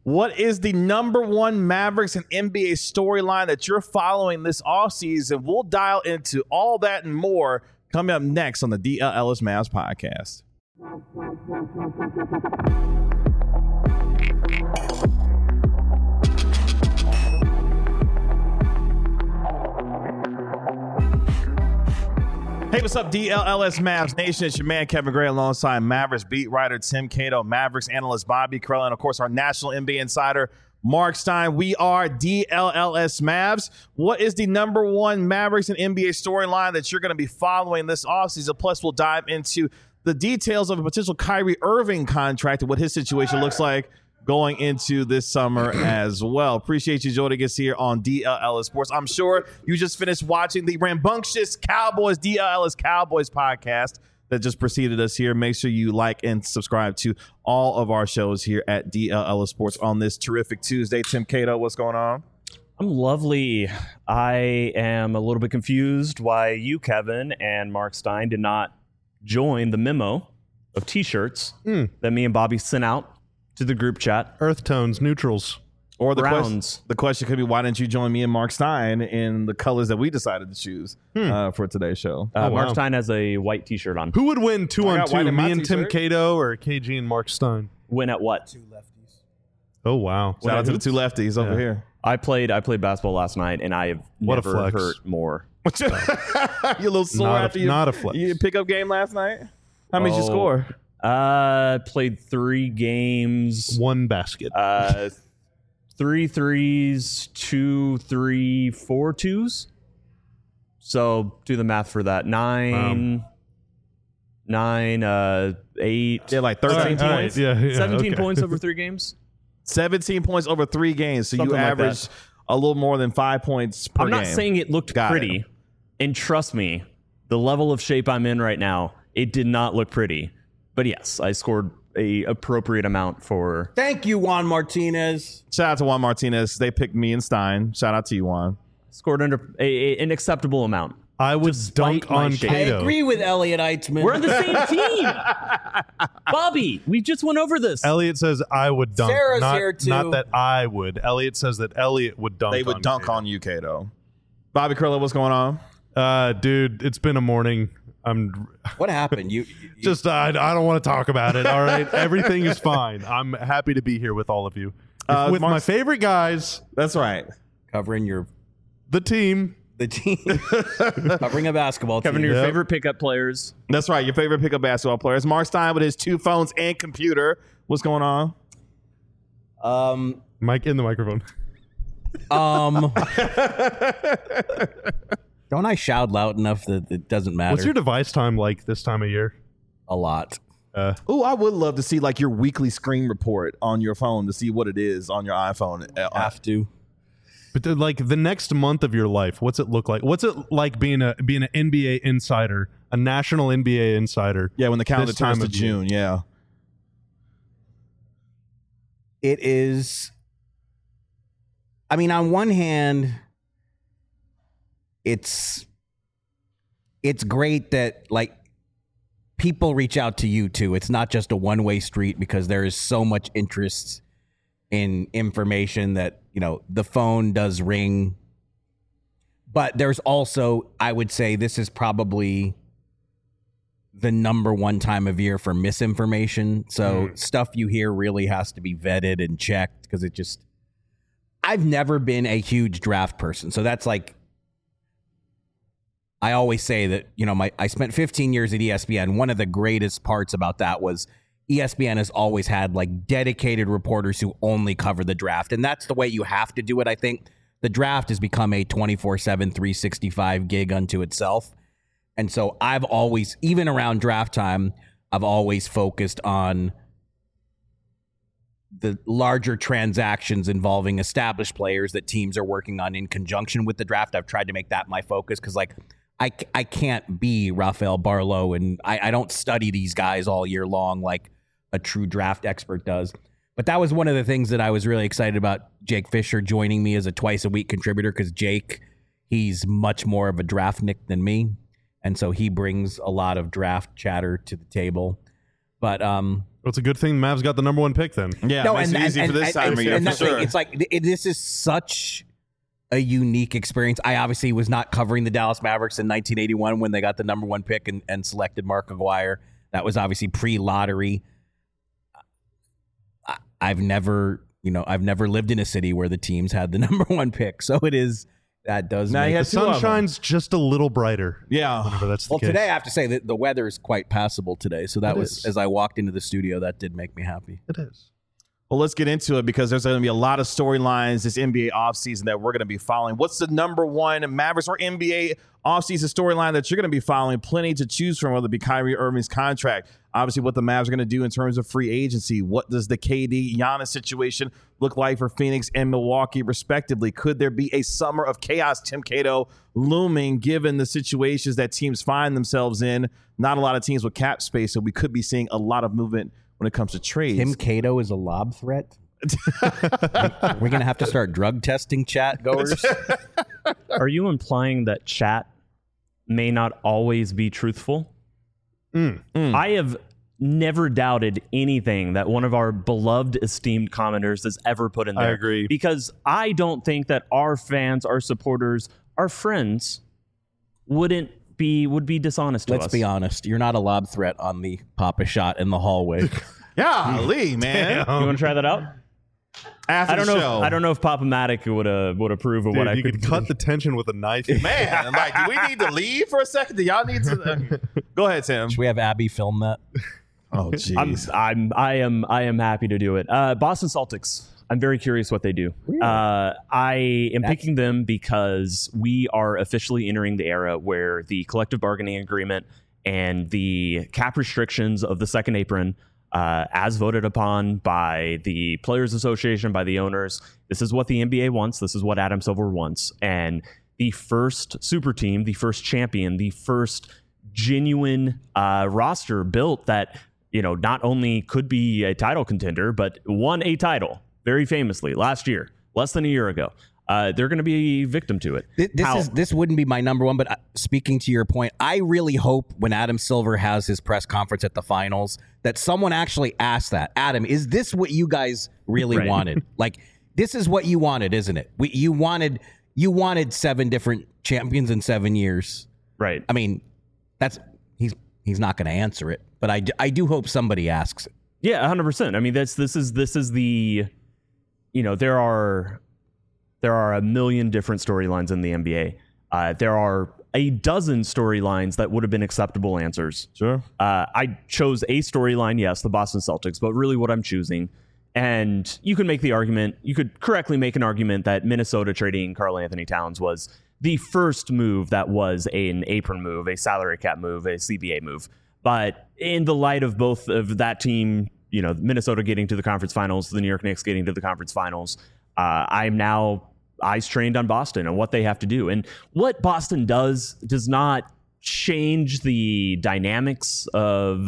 What is the number one Mavericks and NBA storyline that you're following this offseason? We'll dial into all that and more coming up next on the DLLS Mavs podcast. Hey, what's up, DLLS Mavs Nation? It's your man, Kevin Gray, alongside Mavericks beat writer Tim Cato, Mavericks analyst Bobby Karalla, and, of course, our national NBA insider, Mark Stein. We are DLLS Mavs. What is the number one Mavericks and NBA storyline that you're going to be following this offseason? Plus, we'll dive into the details of a potential Kyrie Irving contract and what his situation looks like going into this summer as well. Appreciate you joining us here on DLLS Sports. I'm sure you just finished watching the rambunctious Cowboys, DLLS Cowboys podcast that just preceded us here. Make sure you like and subscribe to all of our shows here at DLLS Sports on this terrific Tuesday. Tim Cato, what's going on? I'm lovely. I am a little bit confused why you, Kevin, and Mark Stein did not join the memo of T-shirts that me and Bobby sent out to the group chat. Earth tones, neutrals. Or the question could be, why didn't you join me and Mark Stein in the colors that we decided to choose for today's show? Mark Stein has a white T-shirt on. Who would win 2-on-2, me and Tim t-shirt. Cato or KG and Mark Stein? Win at what? Two lefties. Oh, wow. Shout out to the two lefties over here. I played basketball last night, and I have What a never flex. hurt more. You a little sore Not a- after not a flex. your pickup game last night? How many did you score? Played 3 games. 1 basket. 3 threes, 2, 3, 4 twos. So do the math for that. 9, 8. Yeah, like 13 points. All right, yeah, 17 okay. points over 3 games. 17 points over 3 games. So Something you like averaged a little more than 5 points per I'm game. not saying it looked Got pretty. it. And trust me, the level of shape I'm in right now, it did not look pretty. But yes, I scored a appropriate amount for... Thank you, Juan Martinez. Shout out to Juan Martinez. They picked me and Stein. Shout out to you, Juan. Scored under an acceptable amount. I would Despite dunk my on shape. I Cato. agree with Elliot Eitzman. We're on the same team. Bobby, we just went over this. Elliot says I would dunk. Sarah's not, here, too. not that I would. Elliot says that Elliot would dunk They would on dunk Cato. on you, Cato. Bobby Karalla, what's going on? Dude, it's been a morning. I'm What happened? You just, I don't want to talk about it, all right? Everything is fine. I'm happy to be here with all of you. With my Mark's- favorite guys, That's right. covering the team. the team, covering a basketball Kevin, team. your Yep. favorite pickup players. That's right. Your favorite pickup basketball players. Mark Stein with his 2 phones and computer. What's going on? Mike in the microphone. Don't I shout loud enough that it doesn't matter? What's your device time like this time of year? A lot. Oh, I would love to see like your weekly screen report on your phone to see what it is on your iPhone. Have to. But like the next month of your life, what's it look like? What's it like being an NBA insider, a national NBA insider? Yeah, when the calendar This time turns to of year. June. Yeah. It is. I mean, on one hand, it's great that like people reach out to you too. It's not just a one-way street because there is so much interest in information that, you know, the phone does ring. But there's also, I would say this is probably the number one time of year for misinformation. So stuff you hear really has to be vetted and checked because it just, I've never been a huge draft person. So that's like, I always say that, you know, I spent 15 years at ESPN. One of the greatest parts about that was ESPN has always had like dedicated reporters who only cover the draft. And that's the way you have to do it. I think the draft has become a 24/7, 365 gig unto itself. And so I've always, even around draft time, I've always focused on the larger transactions involving established players that teams are working on in conjunction with the draft. I've tried to make that my focus because, like, I can't be Rafael Barlow, and I don't study these guys all year long like a true draft expert does. But that was one of the things that I was really excited about Jake Fisher joining me as a twice-a-week contributor because Jake, he's much more of a draft Nick than me. And so he brings a lot of draft chatter to the table. But Well, it's a good thing the Mavs got the number 1 pick then. Yeah, it makes it easy for this time of year, for that's sure. it's like this is such a unique experience. I obviously was not covering the Dallas Mavericks in 1981 when they got the number 1 pick and selected Mark Aguirre. That was obviously pre-lottery. I've never lived in a city where the teams had the number 1 pick, so it is. That does Now make you The had two of sun them. shines just a little brighter. Yeah. Whenever that's the Well, case. today I have to say that the weather is quite passable today. So that It was, is. as I walked into the studio, that did make me happy. It is. Well, let's get into it because there's going to be a lot of storylines this NBA offseason that we're going to be following. What's the number 1 Mavericks or NBA offseason storyline that you're going to be following? Plenty to choose from, whether it be Kyrie Irving's contract, obviously what the Mavs are going to do in terms of free agency. What does the KD Giannis situation look like for Phoenix and Milwaukee, respectively? Could there be a summer of chaos, Tim Cato, looming given the situations that teams find themselves in? Not a lot of teams with cap space, so we could be seeing a lot of movement when it comes to trades. Tim Cato is a lob threat. We're going to have to start drug testing chat goers. Are you implying that chat may not always be truthful? I have never doubted anything that one of our beloved, esteemed commenters has ever put in there. I agree. Because I don't think that our fans, our supporters, our friends would be dishonest to us. Let's be honest. You're not a lob threat on the Papa shot in the hallway. Golly, man. You want to try that out? After I don't the know. show. I don't know if Pop-O-Matic would approve of Dude, what I you could could cut the tension with a knife. Man, like, do we need to leave for a second? Do y'all need to? Go ahead, Tim. Should we have Abby film that? Oh, jeez. I am happy to do it. Boston Celtics. I'm very curious what they do. I am picking them because we are officially entering the era where the collective bargaining agreement and the cap restrictions of the second apron, as voted upon by the Players Association, by the owners, this is what the NBA wants. This is what Adam Silver wants. And the first super team, the first champion, the first genuine roster built that, not only could be a title contender, but won a title very famously last year, less than a year ago. They're going to be a victim to it. This wouldn't be my number 1, but speaking to your point, I really hope when Adam Silver has his press conference at the finals that someone actually asks that. Adam, is this what you guys really wanted? Like, this is what you wanted, isn't it? You wanted 7 different champions in 7 years. Right. I mean, he's not going to answer it, but I do hope somebody asks it. Yeah, 100%. I mean, this is the, there are a million different storylines in the NBA. There are a dozen storylines that would have been acceptable answers. Sure. I chose a storyline, yes, the Boston Celtics, but really what I'm choosing. And you can make the argument, you could correctly make an argument that Minnesota trading Karl Anthony Towns was the first move that was an apron move, a salary cap move, a CBA move. But in the light of both of that team, Minnesota getting to the conference finals, the New York Knicks getting to the conference finals, I'm now eyes trained on Boston and what they have to do. And what Boston does not change the dynamics of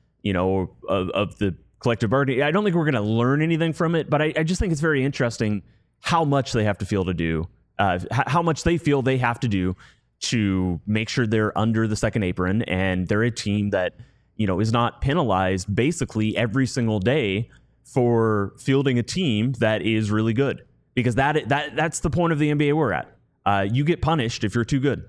the collective bargaining. I don't think we're going to learn anything from it, but I just think it's very interesting how much they have to feel to do, how much they feel they have to do to make sure they're under the second apron and they're a team that, is not penalized basically every single day for fielding a team that is really good. Because that's the point of the NBA we're at. You get punished if you're too good.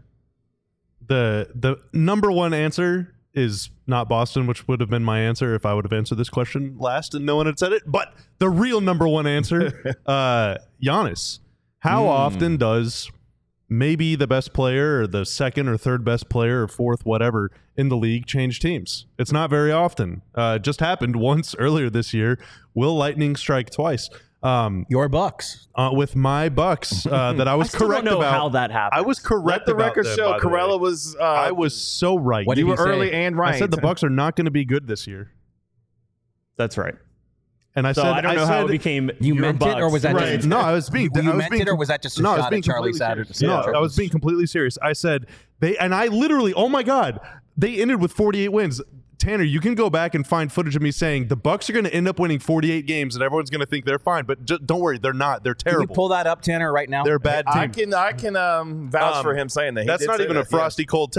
The number 1 answer is not Boston, which would have been my answer if I would have answered this question last and no one had said it. But the real number 1 answer, Giannis. How often does maybe the best player or the second or third best player or fourth, whatever, in the league change teams? It's not very often. Just happened once earlier this year. Will lightning strike twice? Your Bucks. With my Bucks that I was still correct don't know about. how that happened. I was correct. Let the about record them, show by the way. Corella was. I was so right. What you did were you say? early and right. I said the Bucks are not going to be good this year, That's right. and I So said I don't know how it became. You your meant it, or Bucks. was that right. just No, I was being. you I was meant being, it, or was that just a no, I was shot being at Charlie completely Saturday? serious. No, I was being completely serious. I said they, and I literally, oh my god, they ended with 48 wins. Tanner, you can go back and find footage of me saying the Bucks are going to end up winning 48 games, and everyone's going to think they're fine. But just, don't worry, they're not. They're Can you terrible. pull that up, Tanner, right now? They're a bad team. I can vouch for him saying that. He That's did not say even that, a frosty cold take.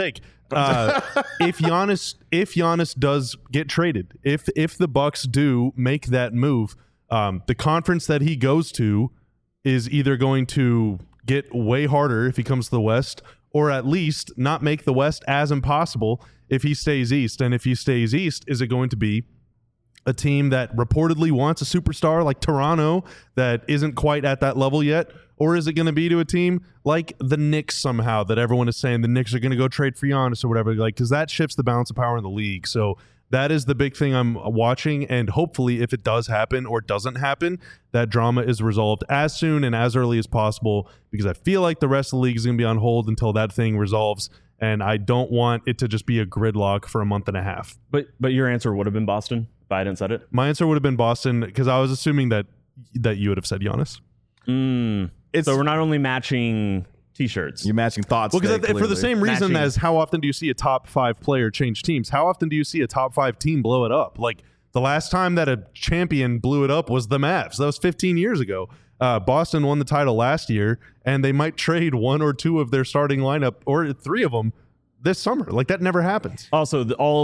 if Giannis does get traded, if the Bucks do make that move, the conference that he goes to is either going to get way harder if he comes to the West, or at least not make the West as impossible if he stays East. And if he stays East, is it going to be a team that reportedly wants a superstar like Toronto that isn't quite at that level yet? Or is it going to be to a team like the Knicks somehow that everyone is saying the Knicks are going to go trade for Giannis or whatever? Like, because that shifts the balance of power in the league. So that is the big thing I'm watching. And hopefully, if it does happen or doesn't happen, that drama is resolved as soon and as early as possible, because I feel like the rest of the league is going to be on hold until that thing resolves. And I don't want it to just be a gridlock for a month and a half. But your answer would have been Boston if I hadn't said it? My answer would have been Boston, because I was assuming that you would have said Giannis. So we're not only matching T-shirts. You're matching thoughts. Well, because today, for the same reason Matching. as how often do you see a top 5 player change teams? How often do you see a top 5 team blow it up? Like, the last time that a champion blew it up was the Mavs. That was 15 years ago. Boston won the title last year, and they might trade 1 or 2 of their starting lineup, or 3 of them, this summer. Like, that never happens. Also,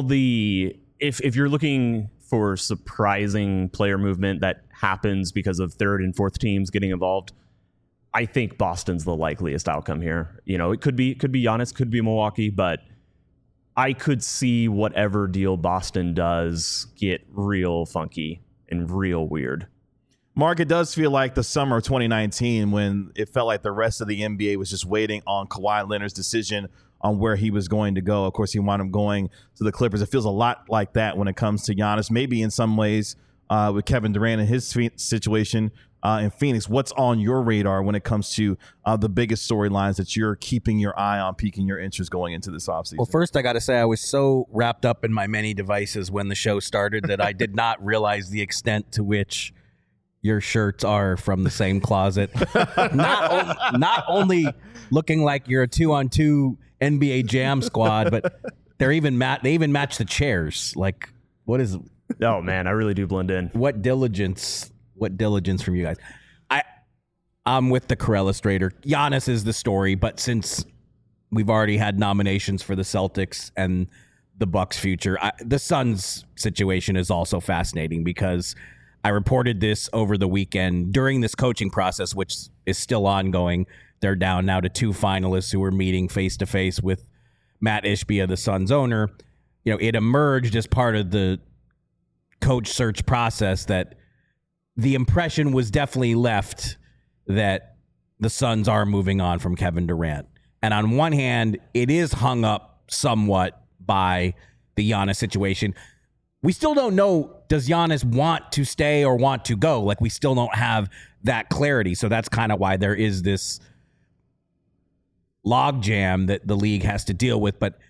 if you're looking for surprising player movement that happens because of third and fourth teams getting involved, I think Boston's the likeliest outcome here. You know, it could be Giannis, could be Milwaukee, but I could see whatever deal Boston does get real funky and real weird. Mark, it does feel like the summer of 2019 when it felt like the rest of the NBA was just waiting on Kawhi Leonard's decision on where he was going to go. Of course, he wound up going to the Clippers. It feels a lot like that when it comes to Giannis, maybe in some ways with Kevin Durant and his situation in Phoenix. What's on your radar when it comes to the biggest storylines that you're keeping your eye on, piquing your interest going into this offseason? Well, first, I got to say, I was so wrapped up in my many devices when the show started that I did not realize the extent to which your shirts are from the same closet. Not only looking like you're a 2-on-2 NBA Jam squad, but they even match the chairs. Like, what is? Oh man, I really do blend in. What diligence from you guys. I'm with the Corellistrator. Giannis is the story, but since we've already had nominations for the Celtics and the Bucks' future, the Suns' situation is also fascinating, because I reported this over the weekend during this coaching process, which is still ongoing. They're down now to 2 finalists who are meeting face-to-face with Matt Ishbia, the Suns owner. You know, it emerged as part of the coach search process that the impression was definitely left that the Suns are moving on from Kevin Durant. And on one hand, it is hung up somewhat by the Giannis situation. We still don't know, does Giannis want to stay or want to go? Like, we still don't have that clarity. So that's kind of why there is this logjam that the league has to deal with. But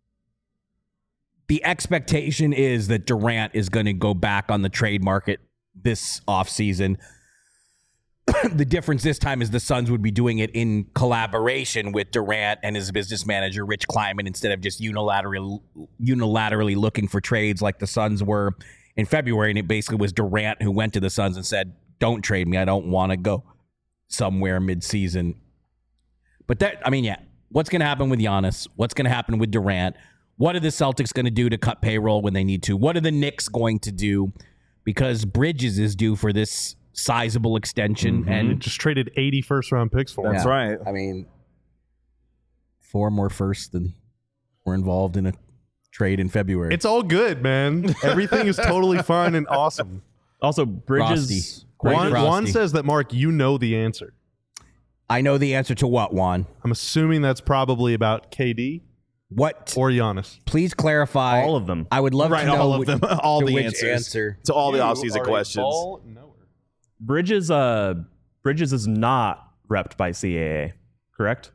the expectation is that Durant is going to go back on the trade market this offseason. The difference this time is the Suns would be doing it in collaboration with Durant and his business manager, Rich Kleiman, instead of just unilaterally looking for trades like the Suns were in February. And it basically was Durant who went to the Suns and said, don't trade me. I don't want to go somewhere midseason. But what's going to happen with Giannis? What's going to happen with Durant? What are the Celtics going to do to cut payroll when they need to? What are the Knicks going to do? Because Bridges is due for this sizable extension, and just traded 80 first-round picks for him. That's right. I mean, 4 more firsts than were involved in a trade in February. It's all good, man. Everything is totally fine and awesome. Also, Bridges. Juan says that, Mark, you know the answer. I know the answer to what, Juan? I'm assuming that's probably about KD. What? Or Giannis. Please clarify. All of them. I would love to know all of them. All to the which answers answer. to all the offseason questions. Bridges is not repped by CAA, correct?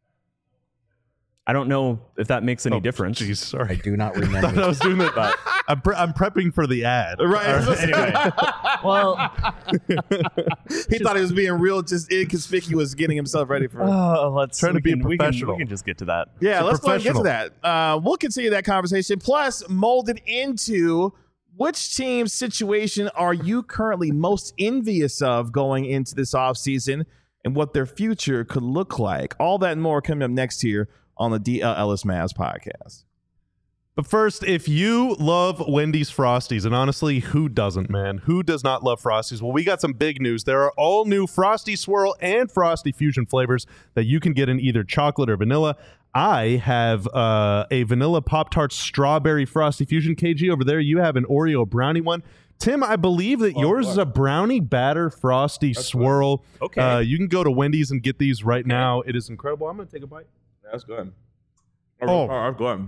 I don't know if that makes any difference. Jeez, sorry. I do not I remember. was doing that. But I'm prepping for the ad. Right. Anyway, well, He thought he was being real, just inconspicuous, getting himself ready for it. let's Trying to be professional. We can just get to that. Yeah, So let's go and get to professional. that. We'll continue that conversation. Plus, molded into which team's situation are you currently most envious of going into this offseason and what their future could look like? All that and more coming up next here on the DLLS Mavs podcast. But first, if you love Wendy's Frosties, and honestly, who doesn't, man? Who does not love Frosties? Well, we got some big news. There are all new Frosty Swirl and Frosty Fusion flavors that you can get in either chocolate or vanilla. I have a vanilla Pop-Tart Strawberry Frosty Fusion. KG, over there, you have an Oreo Brownie one. Tim, I believe that yours is a brownie batter Frosty Swirl. Okay. You can go to Wendy's and get these right now. It is incredible. I'm going to take a bite. That's good. Oh, good.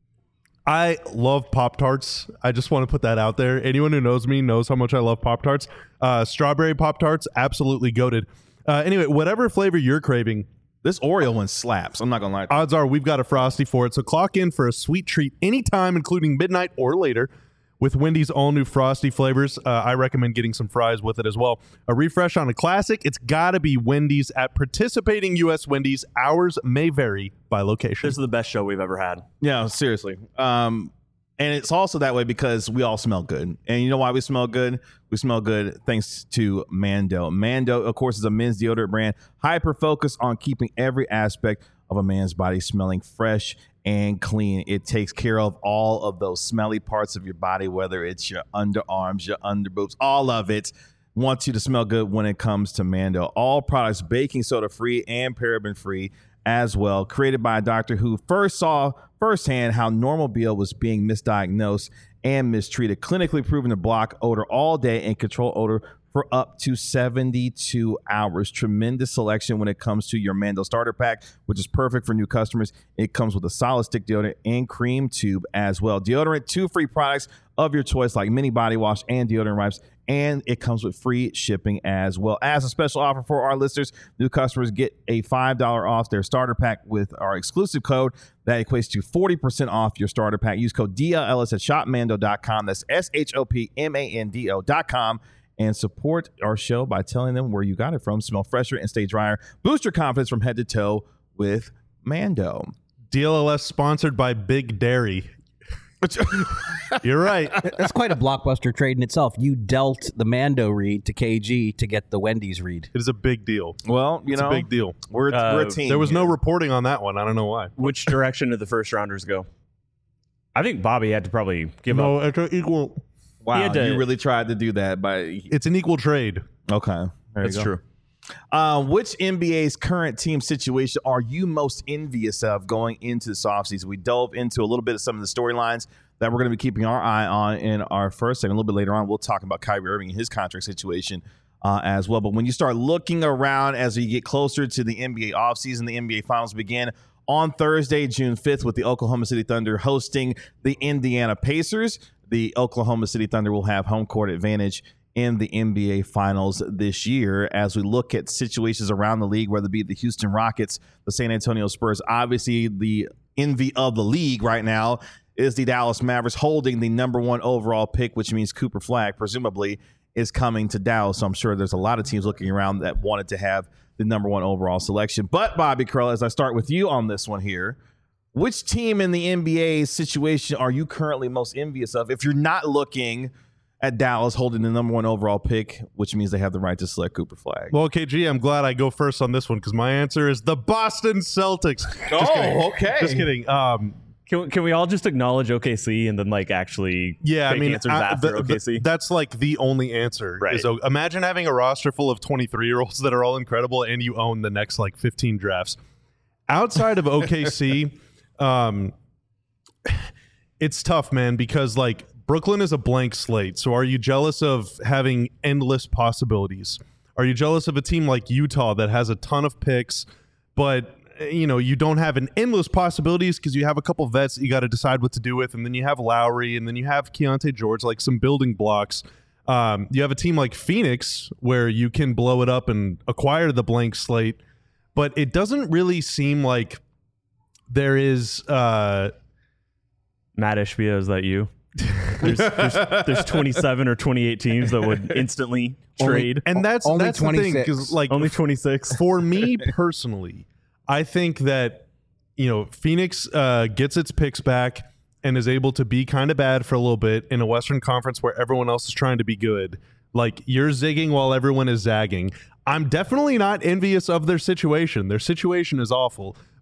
I love Pop-Tarts. I just want to put that out there. Anyone who knows me knows how much I love Pop-Tarts. Strawberry Pop-Tarts, absolutely goated. Anyway, whatever flavor you're craving, This Oreo one slaps. I'm not going to lie. odds are we've got a Frosty for it. So clock in for a sweet treat anytime, including midnight or later, with Wendy's all-new Frosty flavors. I recommend getting some fries with it as well. A refresh on a classic, it's got to be Wendy's at participating U.S. Wendy's. Hours may vary by location. This is the best show we've ever had. Yeah, seriously. And it's also that way because we all smell good. And you know why we smell good? We smell good thanks to Mando. Mando, of course, is a men's deodorant brand, hyper-focused on keeping every aspect of a man's body smelling fresh and clean. It takes care of all of those smelly parts of your body, whether it's your underarms, your underboobs, all of it wants you to smell good when it comes to Mando. All products baking soda free and paraben free as well. Created by a doctor who first saw firsthand how normal BO was being misdiagnosed and mistreated. Clinically proven to block odor all day and control odor for up to 72 hours. Tremendous selection when it comes to your Mando starter pack, which is perfect for new customers. It comes with a solid stick deodorant and cream tube as well. Deodorant, 2 free products of your choice like mini body wash and deodorant wipes, and it comes with free shipping as well. As a special offer for our listeners, new customers get a $5 off their starter pack with our exclusive code. That equates to 40% off your starter pack. Use code DLLS at shopmando.com. That's SHOPMANDO.com. And support our show by telling them where you got it from. Smell fresher and stay drier. Boost your confidence from head to toe with Mando. DLLS sponsored by Big Dairy. You're right. That's quite a blockbuster trade in itself. You dealt the Mando read to KG to get the Wendy's read. It is a big deal. Well, It's a big deal. we're a team. There was no here. reporting on that one. I don't know why. Which direction did the first rounders go? I think Bobby had to probably give up. No, it's an equal. Wow, He had to- you really tried to do that. It's an equal trade. Okay. There That's you go. true. Which NBA's current team situation are you most envious of going into this offseason? We dove into a little bit of some of the storylines that we're going to be keeping our eye on in our first segment. A little bit later on, we'll talk about Kyrie Irving and his contract situation as well. But when you start looking around as we get closer to the NBA offseason, the NBA Finals begin on Thursday, June 5th, with the Oklahoma City Thunder hosting the Indiana Pacers. The Oklahoma City Thunder will have home court advantage in the NBA Finals this year as we look at situations around the league, whether it be the Houston Rockets, the San Antonio Spurs. Obviously, the envy of the league right now is the Dallas Mavericks holding the number 1 overall pick, which means Cooper Flagg presumably is coming to Dallas. So I'm sure there's a lot of teams looking around that wanted to have the number 1 overall selection. But Bobby Curl, as I start with you on this one here, which team in the NBA situation are you currently most envious of if you're not looking at Dallas holding the number 1 overall pick, which means they have the right to select Cooper Flagg? Well, KG, I'm glad I go first on this one because my answer is the Boston Celtics. okay. Just kidding. Can we all just acknowledge OKC and then actually Yeah, I take mean, answers after OKC? that's like the only answer. Right. So imagine having a roster full of 23-year-olds that are all incredible and you own the next 15 drafts. Outside of OKC, it's tough, man, because Brooklyn is a blank slate. So are you jealous of having endless possibilities? Are you jealous of a team like Utah that has a ton of picks, but you don't have an endless possibilities because you have a couple vets that you got to decide what to do with, and then you have Lowry, and then you have Keontae George, some building blocks. You have a team like Phoenix where you can blow it up and acquire the blank slate, but it doesn't really seem like there is Matt Ishbia, is that you? There's 27 or 28 teams that would instantly trade. and that's only the thing 26. because Only 26. for me personally, I think that Phoenix gets its picks back and is able to be kind of bad for a little bit in a Western Conference where everyone else is trying to be good. You're zigging while everyone is zagging. I'm definitely not envious of their situation. Their situation is awful,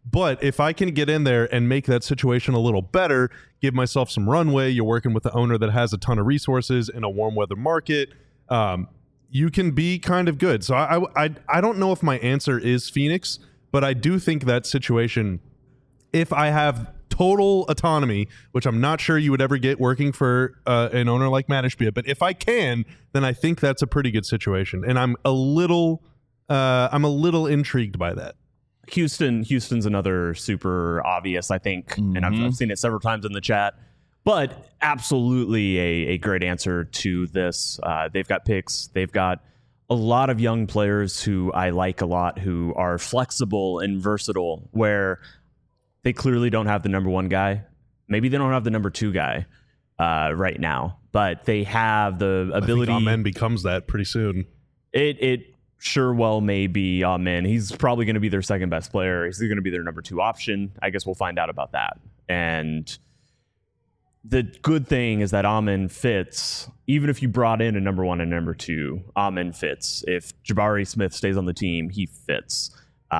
But if I can get in there and make that situation a little better, give myself some runway, you're working with the owner that has a ton of resources in a warm weather market, you can be kind of good. So I don't know if my answer is Phoenix, but I do think that situation, if I have total autonomy, which I'm not sure you would ever get working for an owner like Matt Ishbia, but if I can, then I think that's a pretty good situation. And I'm a little intrigued by that. Houston's another super obvious, I think, and I've seen it several times in the chat, but absolutely a great answer to this. They've got picks. They've got a lot of young players who I like a lot, who are flexible and versatile, where they clearly don't have the number one guy. Maybe they don't have the number two guy right now, but they have the ability. I think Amen becomes that pretty soon. It sure well may be Amen. He's probably going to be their second best player. He's going to be their number two option. I guess we'll find out about that. And the good thing is that Amen fits. Even if you brought in a number one and number two, Amen fits. If Jabari Smith stays on the team, he fits.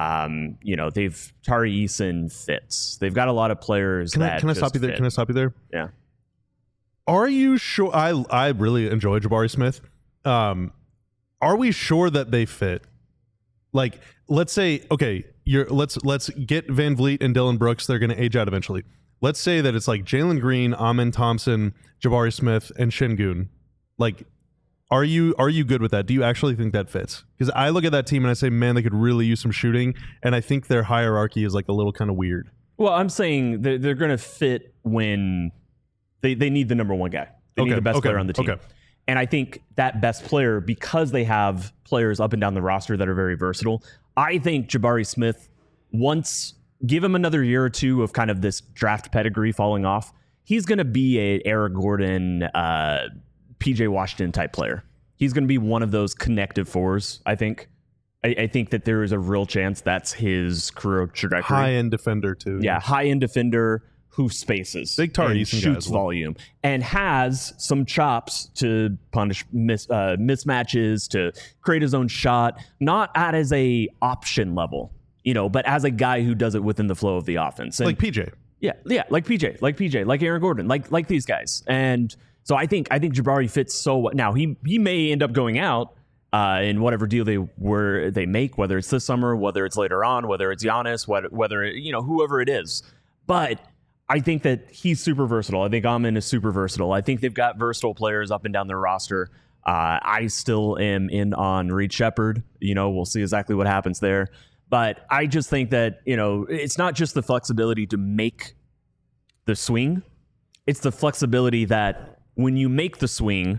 Tari Eason fits. They've got a lot of players Can I stop you there? Fit. Can I stop you there? Yeah. Are you sure? I really enjoy Jabari Smith. Are we sure that they fit? Like, let's say, okay, let's get Van Vliet and Dylan Brooks. They're going to age out eventually. Let's say that it's like Jalen Green, Amen Thompson, Jabari Smith, and Şengün. Like, are you good with that? Do you actually think that fits? Because I look at that team and I say, man, they could really use some shooting, and I think their hierarchy is like a little kind of weird. Well, I'm saying they're going to fit when they need the number one guy. They need the best player on the team. Okay. And I think that best player, because they have players up and down the roster that are very versatile, I think Jabari Smith, give him another year or two of kind of this draft pedigree falling off, he's going to be a Eric Gordon, PJ Washington type player. He's going to be one of those connective fours, I think. I think that there is a real chance that's his career trajectory. High-end defender, too. Yeah, high-end defender who spaces. Big Tari Eason shoots volume. And has some chops to punish mismatches, to create his own shot, not as a option level, but as a guy who does it within the flow of the offense. And like PJ. Yeah, like PJ, like Aaron Gordon, like these guys. And so I think Jabari fits so well. Now he may end up going out in whatever deal they make, whether it's this summer, whether it's later on, whether it's Giannis, whether whoever it is. But I think that he's super versatile. I think Amen is super versatile. I think they've got versatile players up and down their roster. I still am in on Reed Shepherd. We'll see exactly what happens there. But I just think that, it's not just the flexibility to make the swing. It's the flexibility that when you make the swing,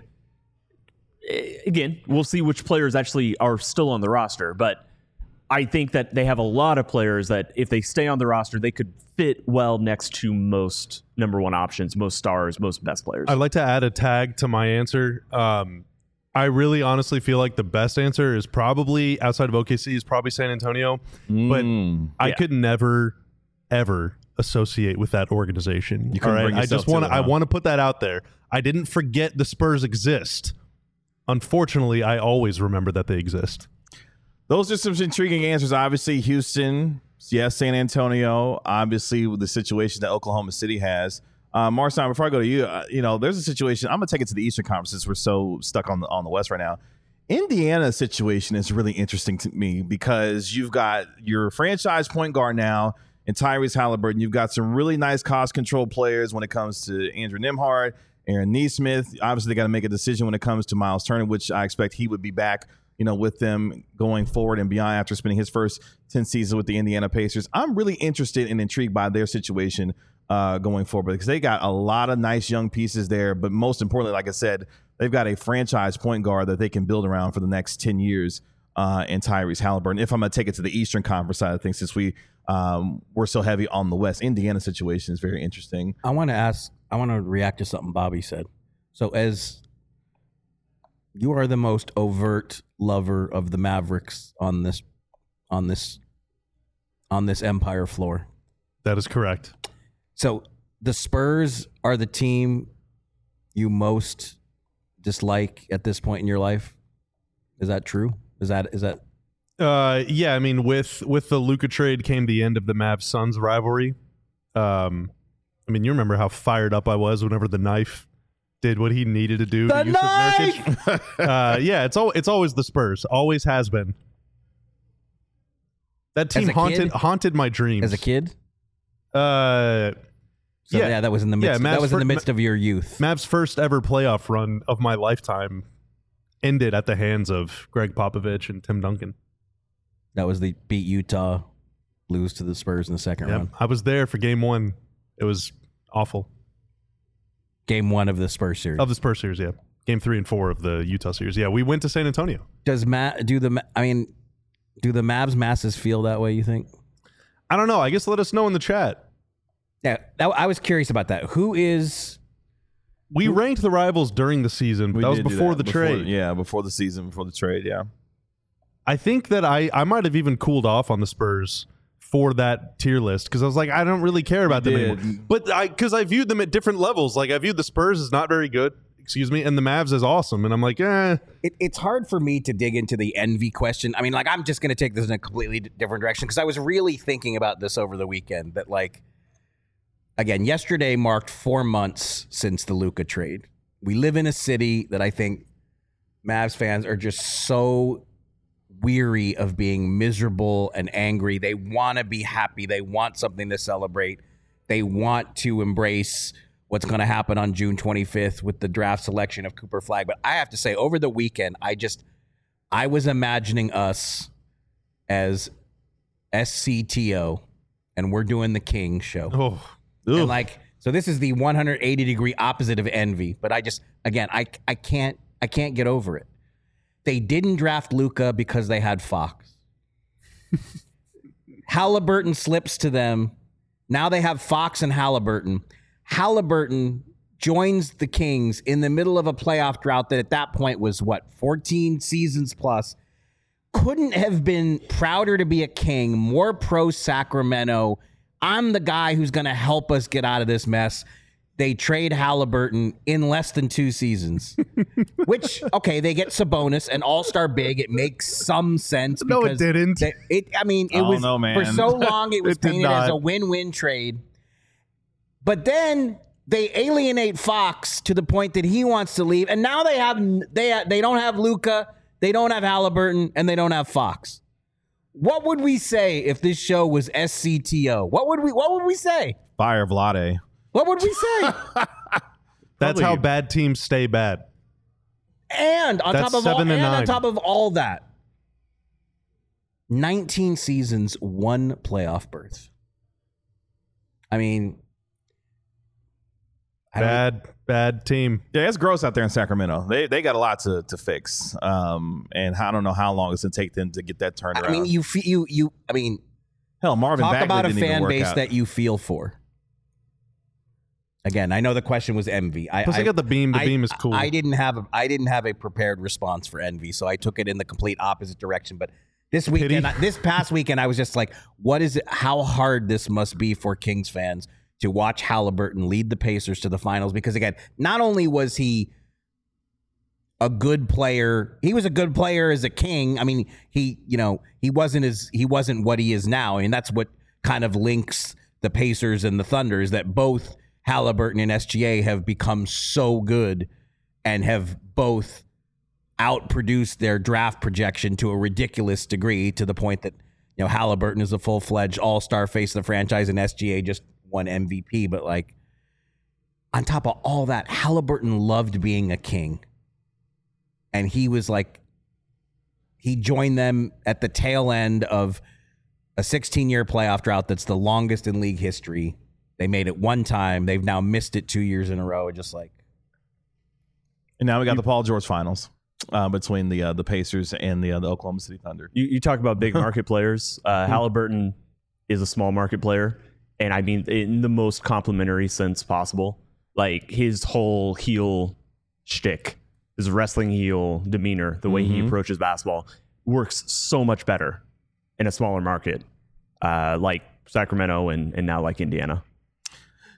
again, we'll see which players actually are still on the roster. But I think that they have a lot of players that if they stay on the roster, they could fit well next to most number one options, most stars, most best players. I'd like to add a tag to my answer. I really honestly feel like the best answer is probably, outside of OKC, is probably San Antonio. But I could never, ever associate with that organization. You couldn't bring yourself to it, huh? I want to put that out there. I didn't forget the Spurs exist. Unfortunately, I always remember that they exist. Those are some intriguing answers. Obviously, Houston, yes, San Antonio, obviously with the situation that Oklahoma City has. Marcin, before I go to you, there's a situation. I'm going to take it to the Eastern Conference since we're so stuck on the West right now. Indiana's situation is really interesting to me because you've got your franchise point guard now in Tyrese Halliburton. You've got some really nice cost control players when it comes to Andrew Nembhard, Aaron Nesmith. Obviously, they got to make a decision when it comes to Miles Turner, which I expect he would be back with them going forward and beyond after spending his first 10 seasons with the Indiana Pacers. I'm really interested and intrigued by their situation going forward because they got a lot of nice young pieces there. But most importantly, like I said, they've got a franchise point guard that they can build around for the next 10 years in Tyrese Halliburton. If I'm going to take it to the Eastern Conference side of things, since we're so heavy on the West, Indiana situation is very interesting. I want to react to something Bobby said. So as you are the most overt lover of the Mavericks on this Empire floor. That is correct. So the Spurs are the team you most dislike at this point in your life. Is that true? Is that Yeah, I mean, with the Luka trade came the end of the Mavs Suns rivalry. I mean, you remember how fired up I was whenever the knife did what he needed to do. The to Nurkic. Yeah, it's always the Spurs. Always has been. That team haunted my dreams as a kid. Yeah, that was in the midst. That was in the midst of your youth. Mavs' first ever playoff run of my lifetime ended at the hands of Greg Popovich and Tim Duncan. That was the beat Utah, lose to the Spurs in the second round. I was there for game 1. It was awful. Game 1 of the Spurs series. Of the Spurs series, yeah. Game 3 and 4 of the Utah series. Yeah, we went to San Antonio. Do the Mavs masses feel that way, you think? I don't know. I guess let us know in the chat. Yeah, I was curious about that. We ranked the rivals during the season, but that was before the trade. Before the season, before the trade, yeah. I think that I might have even cooled off on the Spurs for that tier list because I was like, I don't really care about them anymore. But because I viewed them at different levels. Like I viewed the Spurs as not very good, and the Mavs as awesome. And I'm like, It's hard for me to dig into the envy question. I mean, like I'm just going to take this in a completely different direction because I was really thinking about this over the weekend. That like, again, yesterday marked 4 months since the Luka trade. We live in a city that I think Mavs fans are just so weary of being miserable and angry. They want to be happy. They want something to celebrate. They want to embrace what's going to happen on June 25th with the draft selection of Cooper Flagg. But I have to say, over the weekend, I was imagining us as SCTO, and we're doing the King show. oh, and like, so this is the 180-degree opposite of envy. But I can't get over it. They didn't draft Luka because they had Fox. Halliburton slips to them. Now they have Fox and Halliburton. Halliburton joins the Kings in the middle of a playoff drought that at that point was, 14 seasons plus. Couldn't have been prouder to be a King, more pro Sacramento. I'm the guy who's going to help us get out of this mess. They trade Halliburton in less than 2 seasons, which, okay, they get Sabonis, an all-star big. It makes some sense. No, it didn't. For so long, it was painted as a win-win trade. But then they alienate Fox to the point that he wants to leave. And now they don't have Luka, they don't have Halliburton, and they don't have Fox. What would we say if this show was SCTO? What would we say? Fire Vlade. What would we say? That's how bad teams stay bad. And on top of all that, 19 seasons, 1 playoff berth. I mean, bad team. Yeah, it's gross out there in Sacramento. They got a lot to fix. And I don't know how long it's gonna take them to get that turned around. I mean, hell, Marvin talk Bagley about a didn't even fan work base out. that you feel for. Again, I know the question was envy. Plus, I got the beam. The beam is cool. I didn't have a prepared response for envy, so I took it in the complete opposite direction. But this past weekend, I was just like, "What is it? How hard this must be for Kings fans to watch Halliburton lead the Pacers to the finals?" Because again, not only was he a good player, he was a good player as a King. I mean, he wasn't what he is now, and that's what kind of links the Pacers and the Thunder is that both Halliburton and SGA have become so good and have both outproduced their draft projection to a ridiculous degree, to the point that, Halliburton is a full-fledged all-star face of the franchise and SGA just won MVP. But like, on top of all that, Halliburton loved being a King. And he was like, he joined them at the tail end of a 16-year playoff drought that's the longest in league history. They made it one time. They've now missed it 2 years in a row. Just like, and now we got the Paul George finals between the Pacers and the Oklahoma City Thunder. You talk about big market players. Halliburton is a small market player, and I mean in the most complimentary sense possible. Like his whole heel shtick, his wrestling heel demeanor, the way he approaches basketball works so much better in a smaller market like Sacramento and now like Indiana.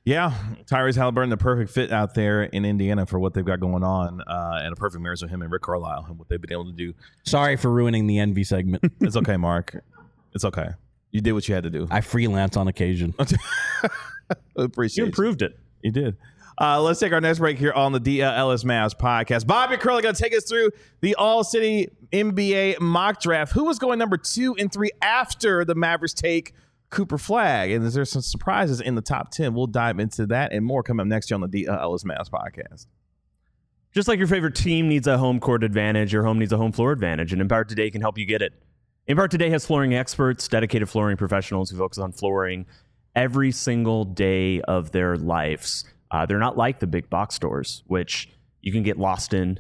Yeah, Tyrese Halliburton, the perfect fit out there in Indiana for what they've got going on, and a perfect marriage with him and Rick Carlisle and what they've been able to do. Sorry for ruining the envy segment. It's okay, Mark. It's okay. You did what you had to do. I freelance on occasion. Appreciate You improved it. You did. Let's take our next break here on the DLS Mavs podcast. Bobby Curley going to take us through the All-City NBA mock draft. Who was going number 2 and 3 after the Mavericks take Cooper Flag? And is there some surprises in the top 10? We'll dive into that and more coming up next year on the DLS Mavs podcast. Just like your favorite team needs a home court advantage, your home needs a home floor advantage, and Empower Today can help you get it. Empower Today has flooring experts, dedicated flooring professionals who focus on flooring every single day of their lives. They're not like the big box stores, which you can get lost in.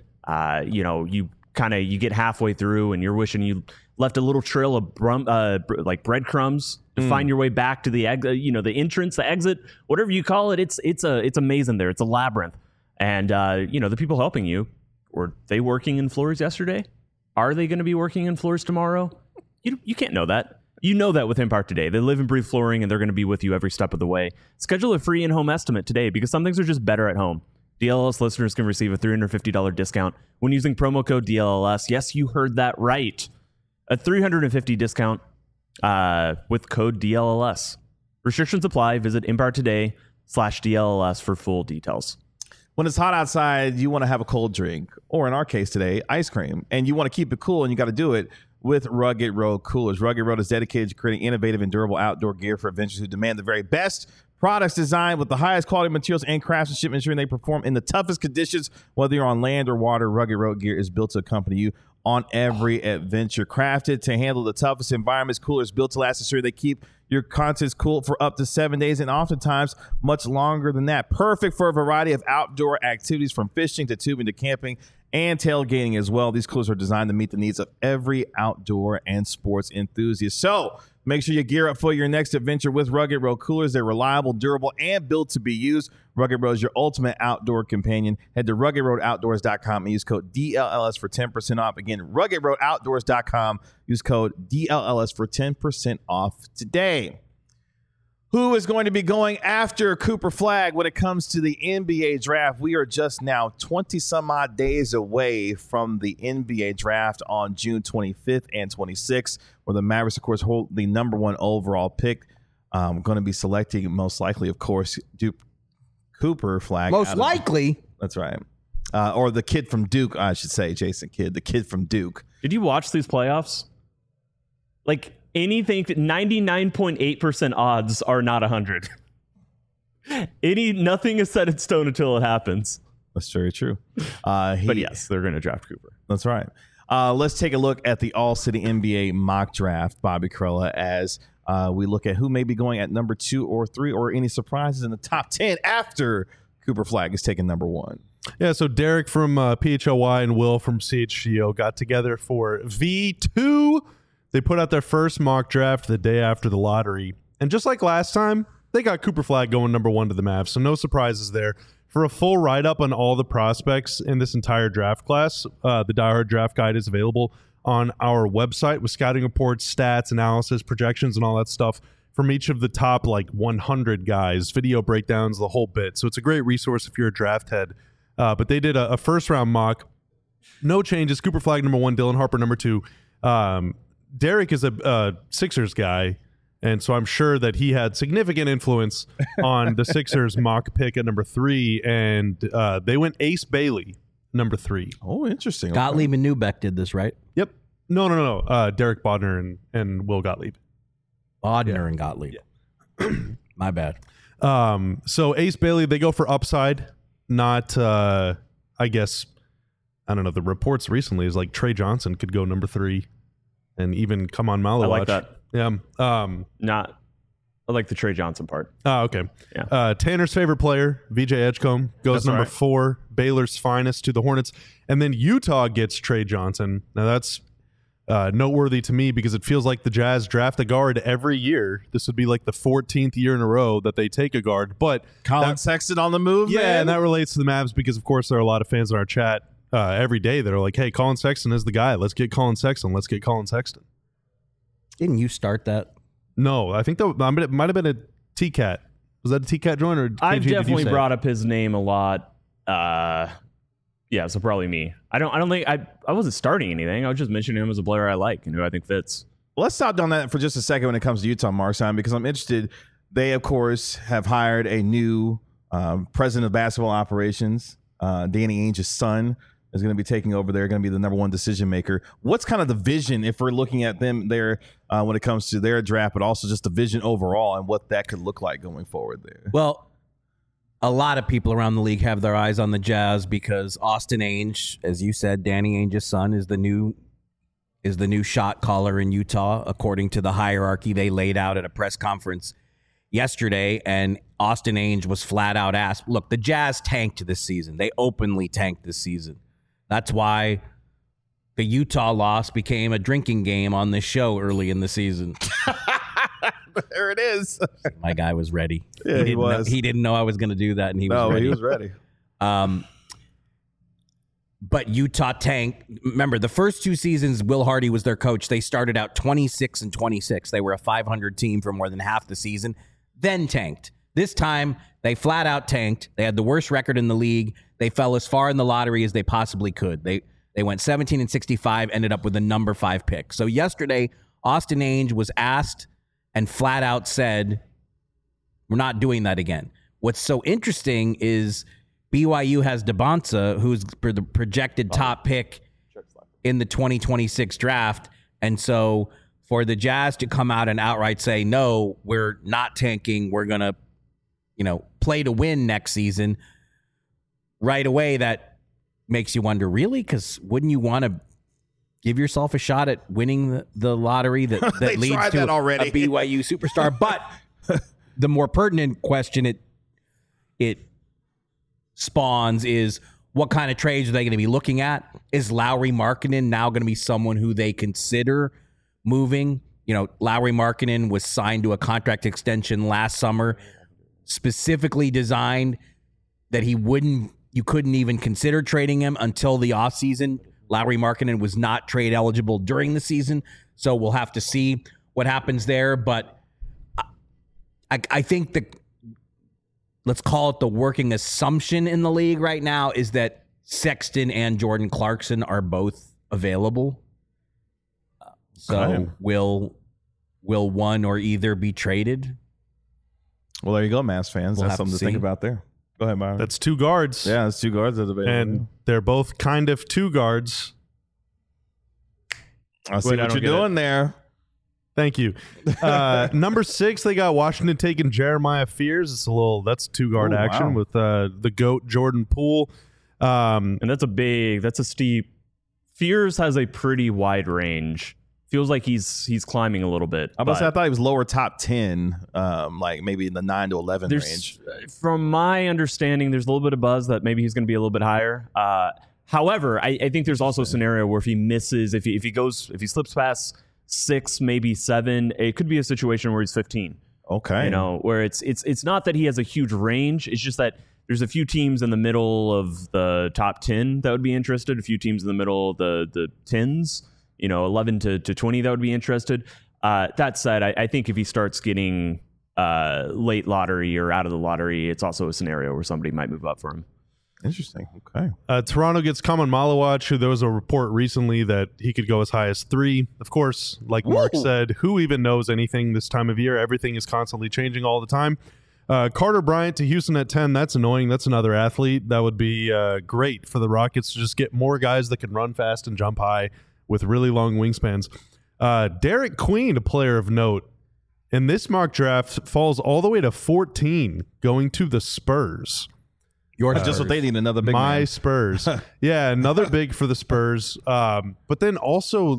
You get halfway through and you're wishing you left a little trail of like breadcrumbs to find your way back to the the entrance, the exit, whatever you call it. It's a maze in there. It's a labyrinth. And the people helping you, were they working in floors yesterday? Are they going to be working in floors tomorrow? You can't know that. You know that with Empower Today. They live and breathe flooring, and they're going to be with you every step of the way. Schedule a free in-home estimate today because some things are just better at home. DLLS listeners can receive a $350 discount when using promo code DLLS. Yes, you heard that right. A $350 discount with code DLLS. Restrictions apply. Visit empowertoday.com/DLLS for full details. When it's hot outside, you want to have a cold drink, or in our case today, ice cream, and you want to keep it cool, and you got to do it with Rugged Road Coolers. Rugged Road is dedicated to creating innovative and durable outdoor gear for adventurers who demand the very best. Products designed with the highest quality materials and craftsmanship, ensuring they perform in the toughest conditions. Whether you're on land or water, Rugged Road gear is built to accompany you on every adventure. Crafted to handle the toughest environments, coolers built to last, ensure they keep your contents cool for up to 7 days and oftentimes much longer than that. Perfect for a variety of outdoor activities from fishing to tubing to camping and tailgating as well. These coolers are designed to meet the needs of every outdoor and sports enthusiast. So make sure you gear up for your next adventure with Rugged Road Coolers. They're reliable, durable, and built to be used. Rugged Road is your ultimate outdoor companion. Head to ruggedroadoutdoors.com and use code DLLS for 10% off. Again, ruggedroadoutdoors.com. Use code DLLS for 10% off today. Who is going to be going after Cooper Flag when it comes to the NBA draft? We are just now 20 some odd days away from the NBA draft on June 25th and 26th, where the Mavericks, of course, hold the number 1 overall pick. Going to be selecting, most likely, of course, Cooper Flag. Most likely. That's right. Or the kid from Duke, I should say, Jason Kidd, the kid from Duke. Did you watch these playoffs? Like, anything, 99.8% odds are not 100. Nothing is set in stone until it happens. That's very true. But yes, they're going to draft Cooper. That's right. Let's take a look at the All-City NBA mock draft, Bobby Karalla, as we look at who may be going at number 2 or 3, or any surprises in the top 10 after Cooper Flag is taken number 1. Yeah, so Derek from PHLY and Will from CHGO got together for V2. They put out their first mock draft the day after the lottery. And just like last time, they got Cooper Flag going number 1 to the Mavs. So no surprises there. For a full write-up on all the prospects in this entire draft class, the Die Hard Draft Guide is available on our website with scouting reports, stats, analysis, projections, and all that stuff from each of the top 100 guys, video breakdowns, the whole bit. So it's a great resource if you're a draft head. But they did a first-round mock. No changes. Cooper Flag number 1, Dylan Harper number 2. Derek is a Sixers guy, and so I'm sure that he had significant influence on the Sixers mock pick at number 3, and they went Ace Bailey, number 3. Oh, interesting. Gottlieb and Newbeck did this, right? Yep. No. Derek Bodner and Will Gottlieb. Bodner and Gottlieb. Yeah. My bad. So Ace Bailey, they go for upside, not, I guess, I don't know, the reports recently is Trey Johnson could go number 3. And even come on Malowatch. I like that. Yeah. I like the Trey Johnson part. Oh, okay. Yeah. Tanner's favorite player, VJ Edgecombe, goes That's number right. 4. Baylor's finest to the Hornets. And then Utah gets Trey Johnson. Now that's noteworthy to me because it feels like the Jazz draft a guard every year. This would be the 14th year in a row that they take a guard. But Colin Sexton on the move, yeah, man. and that relates to the Mavs because, of course, there are a lot of fans in our chat every day that are like, hey, Colin Sexton is the guy. Let's get Colin Sexton. Let's get Colin Sexton. Didn't you start that? No, I think that it might have been a T-Cat Was that a T-Cat joint or I've KG, did you definitely say it? brought up his name a lot. Yeah, so probably me. I don't think I wasn't starting anything. I was just mentioning him as a player I like and who I think fits. Let's stop on that for just a second when it comes to Utah, Markstein, because I'm interested. They, of course, have hired a new president of basketball operations. Danny Ainge's son is going to be taking over. They're going to be the number one decision maker. What's kind of the vision if we're looking at them there when it comes to their draft, but also just the vision overall and what that could look like going forward there? Well, a lot of people around the league have their eyes on the Jazz because Austin Ainge, as you said, Danny Ainge's son, is the new shot caller in Utah, according to the hierarchy they laid out at a press conference yesterday. And Austin Ainge was flat out asked, look, the Jazz tanked this season. They openly tanked this season. That's why the Utah loss became a drinking game on this show early in the season. There it is. My guy was ready. Yeah, he was. He didn't know I was going to do that, and he was ready. He was ready. But Utah tanked. Remember, the first two seasons, Will Hardy was their coach. They started out 26-26. They were a 500 team for more than half the season, then tanked. This time, they flat out tanked. They had the worst record in the league. They fell as far in the lottery as they possibly could. They went 17-65, ended up with a number 5 pick. So yesterday, Austin Ainge was asked and flat out said, we're not doing that again. What's so interesting is BYU has DeBonsa, who's the projected top pick in the 2026 draft. And so for the Jazz to come out and outright say, no, we're not tanking, we're going to, play to win next season, right away, that makes you wonder, really? Because wouldn't you want to give yourself a shot at winning the lottery that leads to a BYU superstar? But the more pertinent question it spawns is, what kind of trades are they going to be looking at? Is Lauri Markkanen now going to be someone who they consider moving? Lauri Markkanen was signed to a contract extension last summer, specifically designed that you couldn't even consider trading him until the offseason. Lauri Markkanen was not trade eligible during the season, so we'll have to see what happens there. But I think let's call it the working assumption in the league right now is that Sexton and Jordan Clarkson are both available. So will one or either be traded? Well, there you go, Mavs fans. We'll That's have something to to think see. about there. Go ahead, Byron. That's 2 guards. Yeah, it's 2 guards that are available. And they're both kind of 2 guards. I see Wait, I what don't you're get doing there. Thank you. Number 6, they got Washington taking Jeremiah Fears. That's 2-guard Oh, action wow. with the GOAT Jordan Poole. And that's a steep. Fears has a pretty wide range. Feels like he's climbing a little bit. I thought he was lower top 10, like maybe in the 9 to 11 range. From my understanding, there's a little bit of buzz that maybe he's going to be a little bit higher. However, I think there's also a scenario where if he misses, if he slips past 6, maybe 7, it could be a situation where he's 15. Okay. Where it's not that he has a huge range. It's just that there's a few teams in the middle of the top 10 that would be interested. A few teams in the middle of the 10s, 11 to 20 that would be interested. That said, I think if he starts getting late lottery or out of the lottery, it's also a scenario where somebody might move up for him. Interesting. Okay. Toronto gets Kaman Malawach, who there was a report recently that he could go as high as 3. Of course, like Mark said, who even knows anything this time of year? Everything is constantly changing all the time. Carter Bryant to Houston at 10. That's annoying. That's another athlete. That would be great for the Rockets to just get more guys that can run fast and jump high with really long wingspans. Derek Queen, a player of note, in this mock draft falls all the way to 14, going to the Spurs. Just what they need, another big My man. Spurs. Yeah, another big for the Spurs. But then also,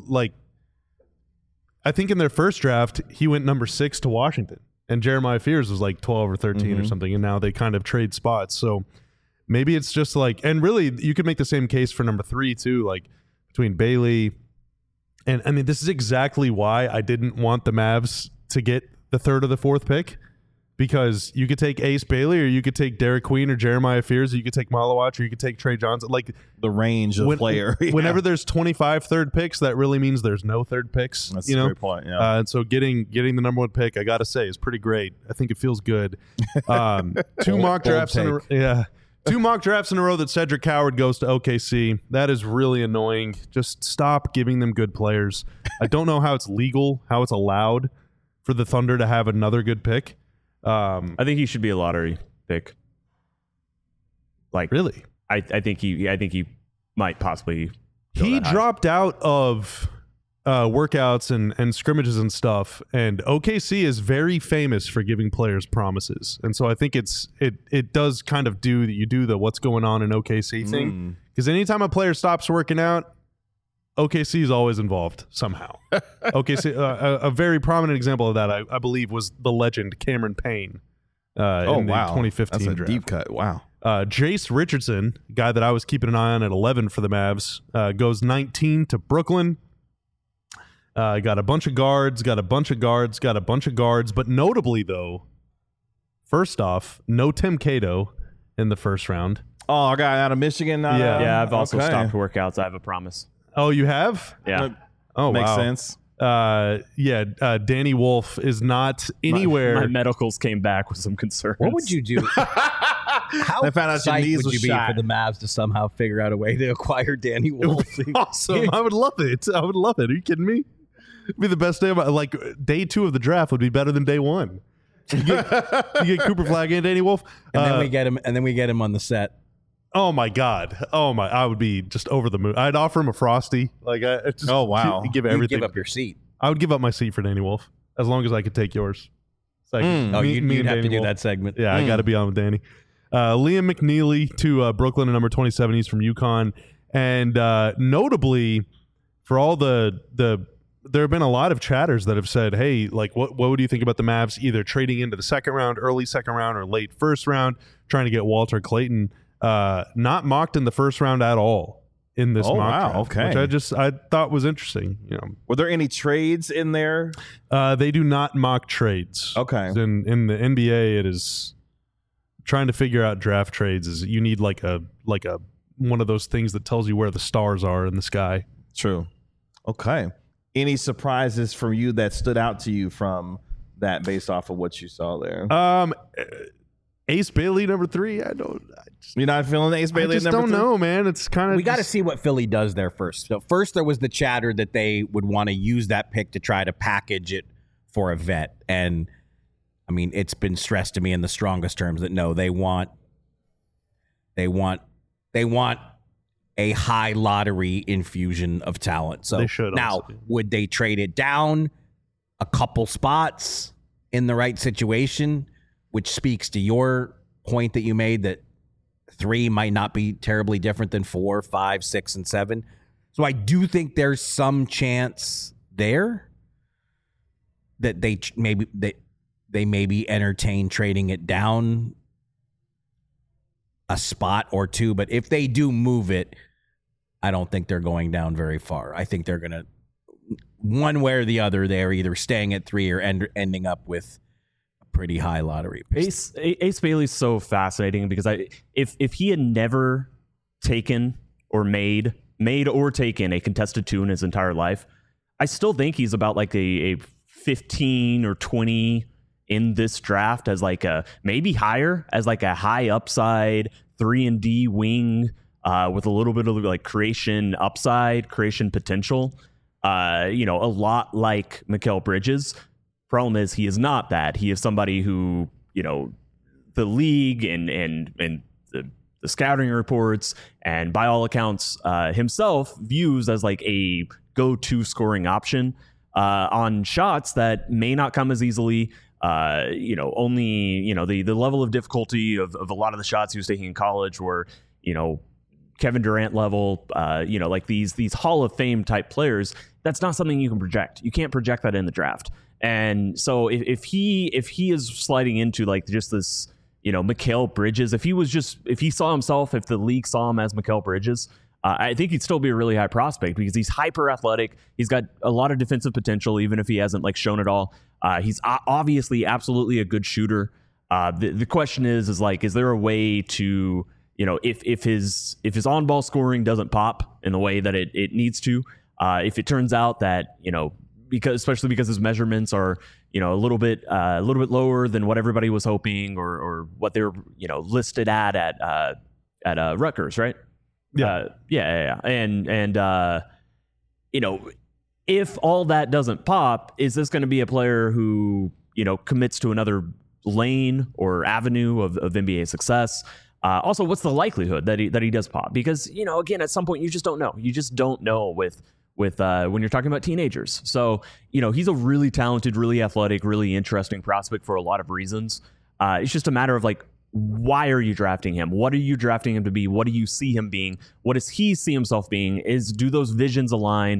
I think in their first draft, he went number 6 to Washington. And Jeremiah Fears was like 12 or 13 or something. And now they kind of trade spots. So maybe it's just and really, you could make the same case for number 3 too, between Bailey. And I mean, this is exactly why I didn't want the Mavs to get the 3rd or the 4th pick. because you could take Ace Bailey, or you could take Derek Queen or Jeremiah Fears, or you could take Malawach, or you could take Trey Johnson. Like the range of player. Yeah. Whenever there's 25 third picks, that really means there's no third picks. That's a great point. Yeah. And so getting the number one pick, I got to say, is pretty great. I think it feels good. Two mock drafts in a row that Cedric Howard goes to OKC. That is really annoying. Just stop giving them good players. I don't know how it's legal, how it's allowed for the Thunder to have another good pick. I think he should be a lottery pick. Like, really? I think he might possibly. He dropped out of workouts and scrimmages and stuff, and OKC is very famous for giving players promises, and so I think it does kind of do the what's going on in OKC thing, because anytime a player stops working out, OKC is always involved somehow. OKC, a very prominent example of that, I believe, was the legend Cameron Payne. In the 2015 That's a draft. deep cut. Wow. Jace Richardson, guy that I was keeping an eye on at 11 for the Mavs, goes 19 to Brooklyn. Got a bunch of guards, but notably, though, first off, no Tim Cato in the first round. Oh, a guy out of Michigan. Yeah, I've also stopped workouts. I have a promise. Oh, you have? Yeah. Oh, makes wow. sense. Danny Wolf is not anywhere. My medicals came back with some concerns. What would you do? How They found out your psyched knees would was you be shot. for the Mavs to somehow figure out a way to acquire Danny Wolf? Awesome. I would love it. Are you kidding me? It'd be the best day of my, like, day 2 of the draft would be better than day 1. You get Cooper Flagg and Danny Wolf. And then we get him on the set. Oh my God! I would be just over the moon. I'd offer him a Frosty. Like, Oh, wow. give You'd everything. give up your seat. I would give up my seat for Danny Wolf as long as I could take yours. So I could- Oh, me you'd and have Danny to do Wolf. that segment. Yeah, I got to be on with Danny. Liam McNeely to Brooklyn at number 27. He's from UConn, and notably, for all the there have been a lot of chatters that have said, hey, like, what would you think about the Mavs either trading into the second round, early second round, or late first round, trying to get Walter Clayton? Not mocked in the first round at all in this mock wow, draft, okay. which I thought was interesting. You know, Were there any trades in there? they do not mock trades. Okay. In the NBA, it is trying to figure out draft trades. Is you need like a one of those things that tells you where the stars are in the sky. True. Okay. Any surprises from you that stood out to you from that based off of what you saw there? Ace Bailey number 3. You're not feeling Ace Bailey I just at number don't 3? know, man. It's kind of We got to see what Philly does there first. So first, there was the chatter that they would want to use that pick to try to package it for a vet, and I mean, it's been stressed to me in the strongest terms that no, they want a high lottery infusion of talent. So They should now, also. would they trade it down a couple spots in the right situation, which speaks to your point that you made that 3 might not be terribly different than 4, 5, 6, and 7. So I do think there's some chance there that they maybe entertain trading it down a spot or 2. But if they do move it, I don't think they're going down very far. I think they're going to, one way or the other, they're either staying at 3 or ending up with a pretty high lottery pick. Ace Bailey's so fascinating because if he had never taken or made or taken a contested 2 in his entire life, I still think he's about like a 15 or 20 in this draft as like a maybe higher as like a high upside 3-and-D wing with a little bit of like creation potential. A lot like Mikal Bridges. Problem is he is not that. He is somebody who, the league and the scouting reports and by all accounts himself views as like a go-to scoring option on shots that may not come as easily. Only the level of difficulty of a lot of the shots he was taking in college were, Kevin Durant level, like these Hall of Fame type players. That's not something you can project. You can't project that in the draft. And so if he is sliding into like just this, Mikal Bridges, if he saw himself, if the league saw him as Mikal Bridges, I think he'd still be a really high prospect because he's hyper athletic. He's got a lot of defensive potential, even if he hasn't like shown it all. He's obviously absolutely a good shooter. The question is like, is there a way to, if his on-ball scoring doesn't pop in the way that it needs to, if it turns out that, especially because his measurements are, a little bit lower than what everybody was hoping or what they were, listed at Rutgers, right? Yeah. And if all that doesn't pop, is this going to be a player who, commits to another lane or avenue of NBA success? Also, what's the likelihood that he does pop? Because, again, at some point you just don't know. You just don't know with when you're talking about teenagers. So, he's a really talented, really athletic, really interesting prospect for a lot of reasons. It's just a matter of like, why are you drafting him? What are you drafting him to be? What do you see him being? What does he see himself being? Do those visions align?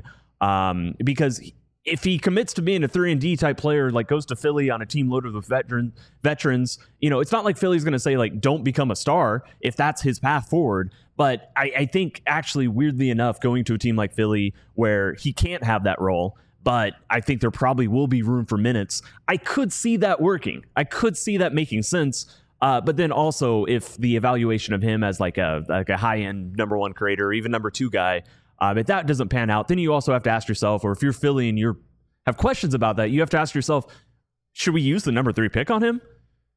Because if he commits to being a 3-and-D type player, like goes to Philly on a team loaded with veterans, it's not like Philly's going to say like, don't become a star if that's his path forward. But I think actually, weirdly enough, going to a team like Philly where he can't have that role, but I think there probably will be room for minutes. I could see that working. I could see that making sense. But then also, if the evaluation of him as like a high-end number one creator, or even number two guy, if that doesn't pan out, then you also have to ask yourself, or if you're Philly and you have questions about that, you have to ask yourself, should we use the number 3 pick on him?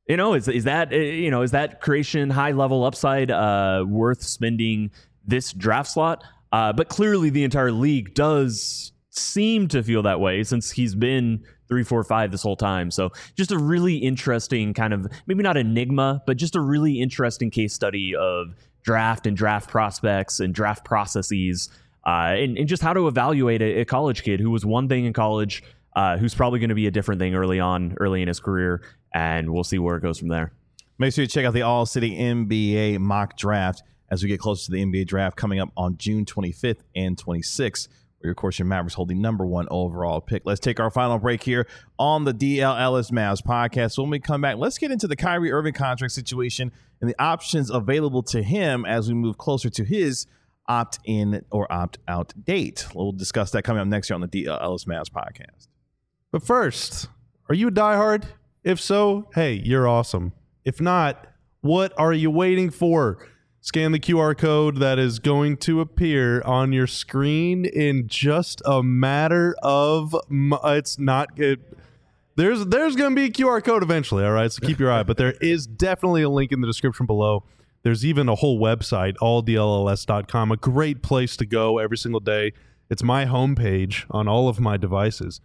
Is that creation high level upside worth spending this draft slot? But clearly the entire league does seem to feel that way since he's been 3, 4, 5 this whole time. So just a really interesting kind of, maybe not enigma, but just a really interesting case study of draft and draft prospects and draft processes, and just how to evaluate a college kid who was one thing in college, who's probably going to be a different thing early in his career, and we'll see where it goes from there. Make sure you check out the All City NBA mock draft as we get closer to the NBA draft coming up on June 25th and 26th, where, of course, your Mavericks hold the number 1 overall pick. Let's take our final break here on the DLLS Mavs podcast. When we come back, let's get into the Kyrie Irving contract situation and the options available to him as we move closer to his opt-in or opt-out date. We'll discuss that coming up next year on the DLLS Mavs podcast. But first, are you a diehard? If so, hey, you're awesome. If not, what are you waiting for? Scan the QR code that is going to appear on your screen in just a matter of it's not good. There's going to be a QR code eventually, all right? So keep your eye. But there is definitely a link in the description below. There's even a whole website, alldlls.com, a great place to go every single day. It's my homepage on all of my devices.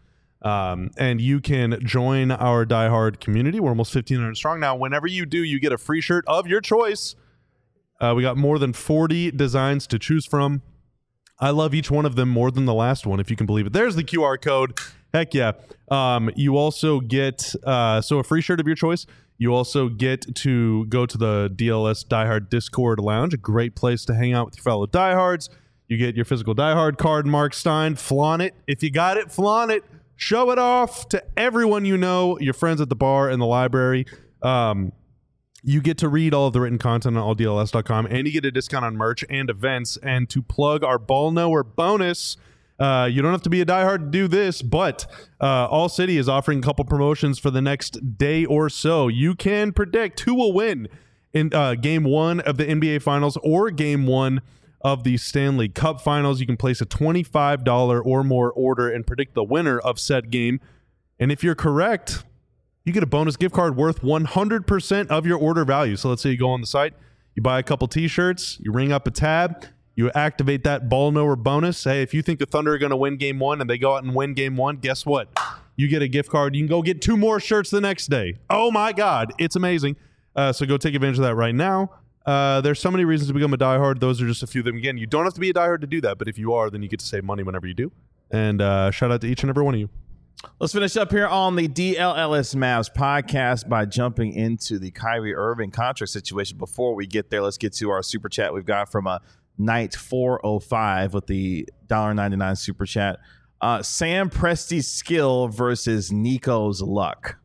And you can join our diehard community. We're almost 1,500 strong now. Whenever you do, you get a free shirt of your choice. We got more than 40 designs to choose from. I love each one of them more than the last one, if you can believe it. There's the QR code. Heck yeah. You also get a free shirt of your choice. You also get to go to the DLS Diehard Discord Lounge, a great place to hang out with your fellow diehards. You get your physical diehard card, Mark Stein. Flaunt it. If you got it, flaunt it. Show it off to everyone you know, your friends at the bar and the library. You get to read all of the written content on alldls.com, and you get a discount on merch and events. And to plug our Ball Knower bonus, you don't have to be a diehard to do this, but All City is offering a couple promotions for the next day or so. You can predict who will win in Game 1 of the NBA Finals or Game 1 of the Stanley Cup Finals. You can place a $25 or more order and predict the winner of said game. And if you're correct, you get a bonus gift card worth 100% of your order value. So let's say you go on the site, you buy a couple t-shirts, you ring up a tab, you activate that Ball Knower bonus. Hey, if you think the Thunder are going to win Game 1 and they go out and win Game 1, guess what? You get a gift card. You can go get 2 more shirts the next day. Oh my God, it's amazing. So go take advantage of that right now. There's so many reasons to become a diehard. Those are just a few of them. Again, you don't have to be a diehard to do that, but if you are, then you get to save money whenever you do. And shout out to each and every one of you. Let's finish up here on the DLLS Mavs podcast by jumping into the Kyrie Irving contract situation. Before we get there, let's get to our super chat we've got from Night 405 with the $1.99 super chat. Sam Presti's skill versus Nico's luck.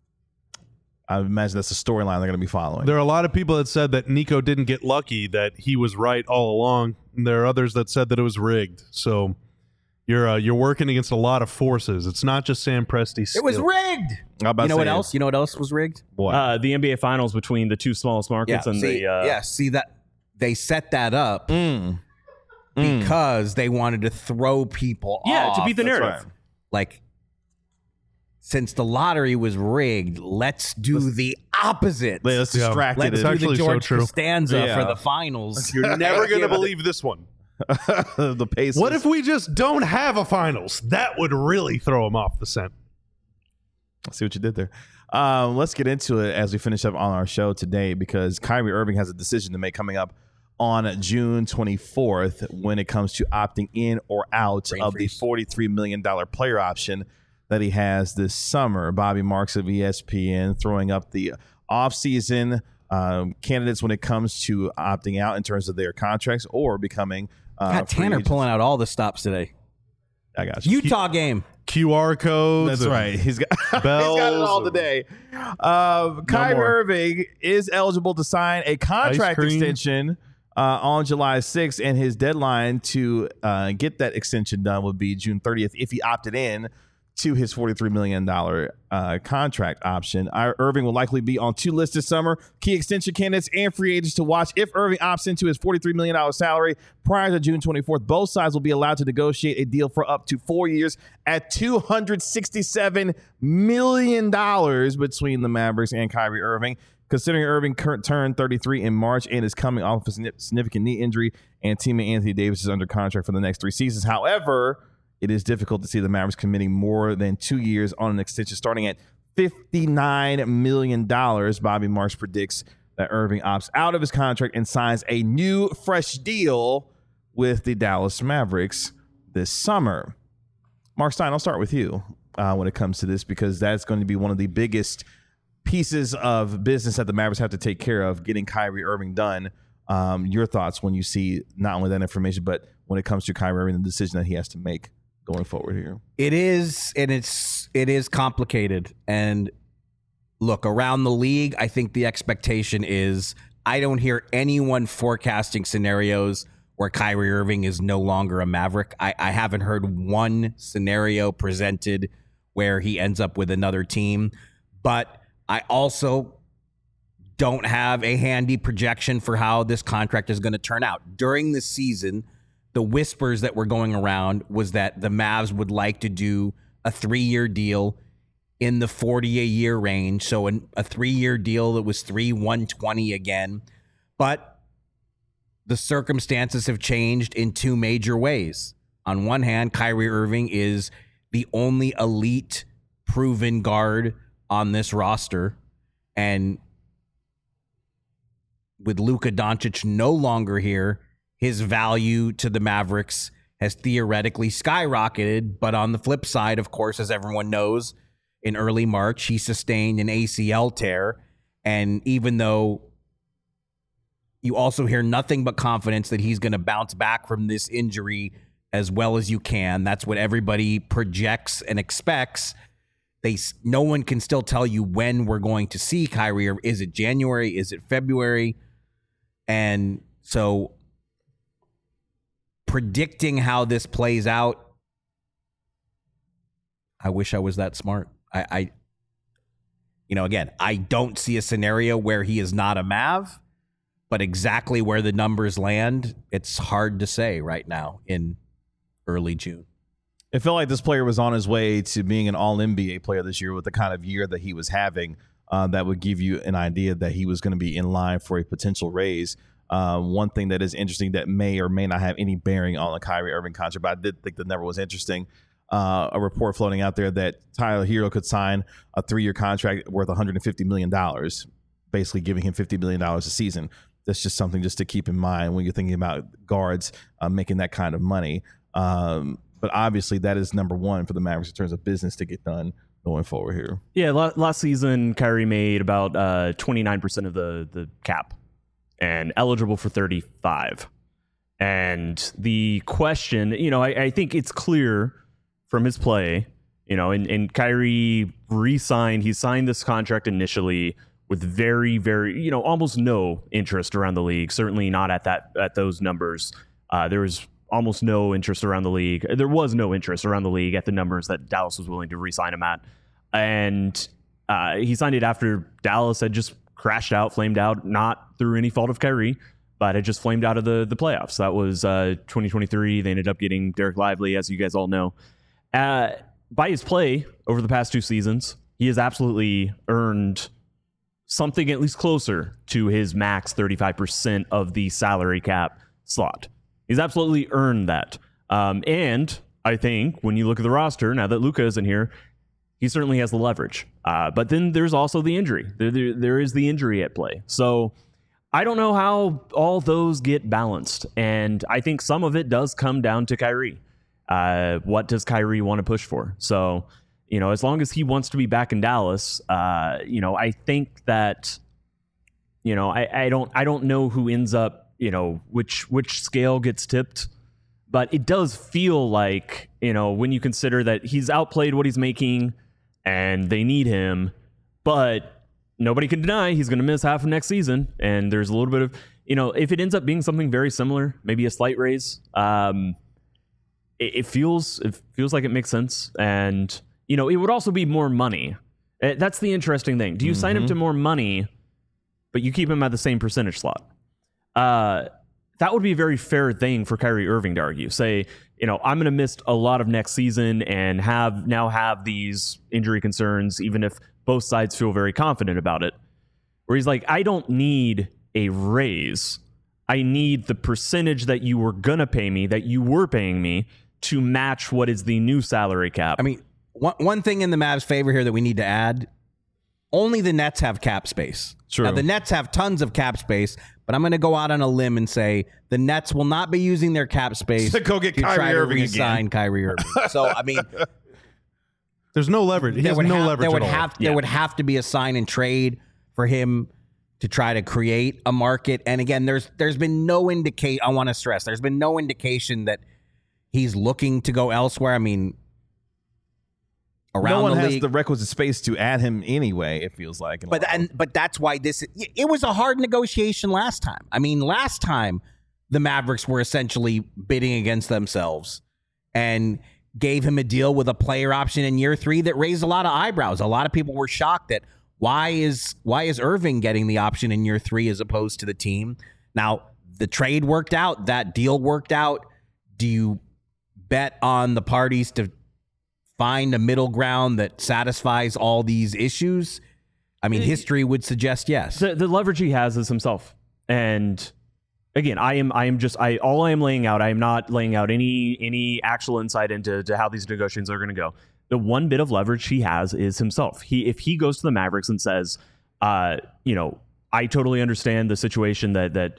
I imagine that's a storyline they're going to be following. There are a lot of people that said that Nico didn't get lucky, that he was right all along. And there are others that said that it was rigged. So You're working against a lot of forces. It's not just Sam Presti's It was skill. rigged. You know what else? You know what else was rigged? What? The NBA Finals between the two smallest markets and see that they set that up because they wanted to throw people off. to beat the narrative. right. Like, since the lottery was rigged, let's do the opposite. Let's distract Let's it. do actually the so George true. Costanza Yeah. for the finals. You're never going to believe this one. The pace. What if we just don't have a finals? That would really throw him off the scent. I see what you did there. Let's get into it as we finish up on our show today, because Kyrie Irving has a decision to make coming up on June 24th when it comes to opting in or out of the $43 million player option that he has this summer. Bobby Marks of ESPN throwing up the offseason candidates when it comes to opting out in terms of their contracts or becoming Got free Tanner agents. pulling out all the stops today. I got you. Utah game. QR codes. That's and right. He's got he's got it bells all and- today. Kyrie more. Irving is eligible to sign a contract Ice cream. extension on July 6th, and his deadline to get that extension done would be June 30th if he opted in to his $43 million contract option. Irving will likely be on two lists this summer: key extension candidates and free agents to watch. If Irving opts into his $43 million salary prior to June 24th, both sides will be allowed to negotiate a deal for up to 4 years at $267 million between the Mavericks and Kyrie Irving. Considering Irving turned 33 in March and is coming off a significant knee injury, and teammate Anthony Davis is under contract for the next 3 seasons. However, it is difficult to see the Mavericks committing more than 2 years on an extension starting at $59 million. Bobby Marks predicts that Irving opts out of his contract and signs a new, fresh deal with the Dallas Mavericks this summer. Mark Stein, I'll start with you when it comes to this, because that's going to be one of the biggest pieces of business that the Mavericks have to take care of, getting Kyrie Irving done. Your thoughts when you see not only that information, but when it comes to Kyrie Irving, the decision that he has to make going forward here. It is, and it is complicated. And look, around the league, I think the expectation is, I don't hear anyone forecasting scenarios where Kyrie Irving is no longer a Maverick. I haven't heard one scenario presented where he ends up with another team. But I also don't have a handy projection for how this contract is going to turn out. During the season, the whispers that were going around was that the Mavs would like to do a 3-year deal in the $40 a year range. So a 3-year deal that was $120 again. But the circumstances have changed in two major ways. On one hand, Kyrie Irving is the only elite proven guard on this roster. And with Luka Doncic no longer here, his value to the Mavericks has theoretically skyrocketed. But on the flip side, of course, as everyone knows, in early March, he sustained an ACL tear. And even though you also hear nothing but confidence that he's going to bounce back from this injury as well as you can, that's what everybody projects and expects. No one can still tell you when we're going to see Kyrie. Or is it January? Is it February? And so predicting how this plays out, I wish I was that smart. Again, I don't see a scenario where he is not a Mav, but exactly where the numbers land, it's hard to say right now in early June. It felt like this player was on his way to being an all-NBA player this year with the kind of year that he was having. That would give you an idea that he was going to be in line for a potential raise. One thing that is interesting that may or may not have any bearing on the Kyrie Irving contract, but I did think the number was interesting. A report floating out there that Tyler Hero could sign a 3-year contract worth $150 million, basically giving him $50 million a season. That's just something just to keep in mind when you're thinking about guards making that kind of money. But obviously, that is number one for the Mavericks in terms of business to get done going forward here. Yeah, last season, Kyrie made about 29% of the cap and eligible for 35. And the question, I think it's clear from his play, and Kyrie re-signed. He signed this contract initially with very, very, almost no interest around the league. Certainly not at those numbers. There was almost no interest around the league. There was no interest around the league at the numbers that Dallas was willing to re-sign him at. And he signed it after Dallas had just crashed out, flamed out, not through any fault of Kyrie, but had just flamed out of the playoffs. That was 2023. They ended up getting Derek Lively, as you guys all know. By his play over the past 2 seasons, he has absolutely earned something at least closer to his max 35% of the salary cap slot. He's absolutely earned that. And I think when you look at the roster, now that Luka isn't here, he certainly has the leverage. But then there's also the injury. There is the injury at play. So I don't know how all those get balanced. And I think some of it does come down to Kyrie. What does Kyrie want to push for? So, as long as he wants to be back in Dallas, I think that, I don't know who ends up, which scale gets tipped, but it does feel like, when you consider that he's outplayed what he's making and they need him, but nobody can deny he's going to miss half of next season. And there's a little bit of, if it ends up being something very similar, maybe a slight raise, it feels like it makes sense. And, it would also be more money. That's the interesting thing. Do you sign him to more money, but you keep him at the same percentage slot? That would be a very fair thing for Kyrie Irving to argue. Say, I'm going to miss a lot of next season and have these injury concerns, even if both sides feel very confident about it. Where he's like, I don't need a raise. I need the percentage that you were going to pay me, that you were paying me, to match what is the new salary cap. I mean, one thing in the Mavs' favor here that we need to add, only the Nets have cap space. True. Now, the Nets have tons of cap space, but I'm going to go out on a limb and say the Nets will not be using their cap space to go get to Kyrie try Irving to re-sign again. Kyrie Irving. So, I mean, There's no leverage. He has no leverage at all. There would have to be a sign and trade for him to try to create a market. And again, there's been no I want to stress, there's been no indication that he's looking to go elsewhere. I mean, around no one the has league, the requisite space to add him anyway, it feels like. but that's why it was a hard negotiation last time. I mean, last time the Mavericks were essentially bidding against themselves and gave him a deal with a player option in year 3 that raised a lot of eyebrows. A lot of people were shocked that why is Irving getting the option in year 3 as opposed to the team? Now, the trade worked out, that deal worked out. Do you bet on the parties to find a middle ground that satisfies all these issues? I mean, history would suggest yes. The leverage he has is himself. And again, I am laying out, I am not laying out any actual insight into how these negotiations are going to go. The one bit of leverage he has is himself. If he goes to the Mavericks and says, I totally understand the situation that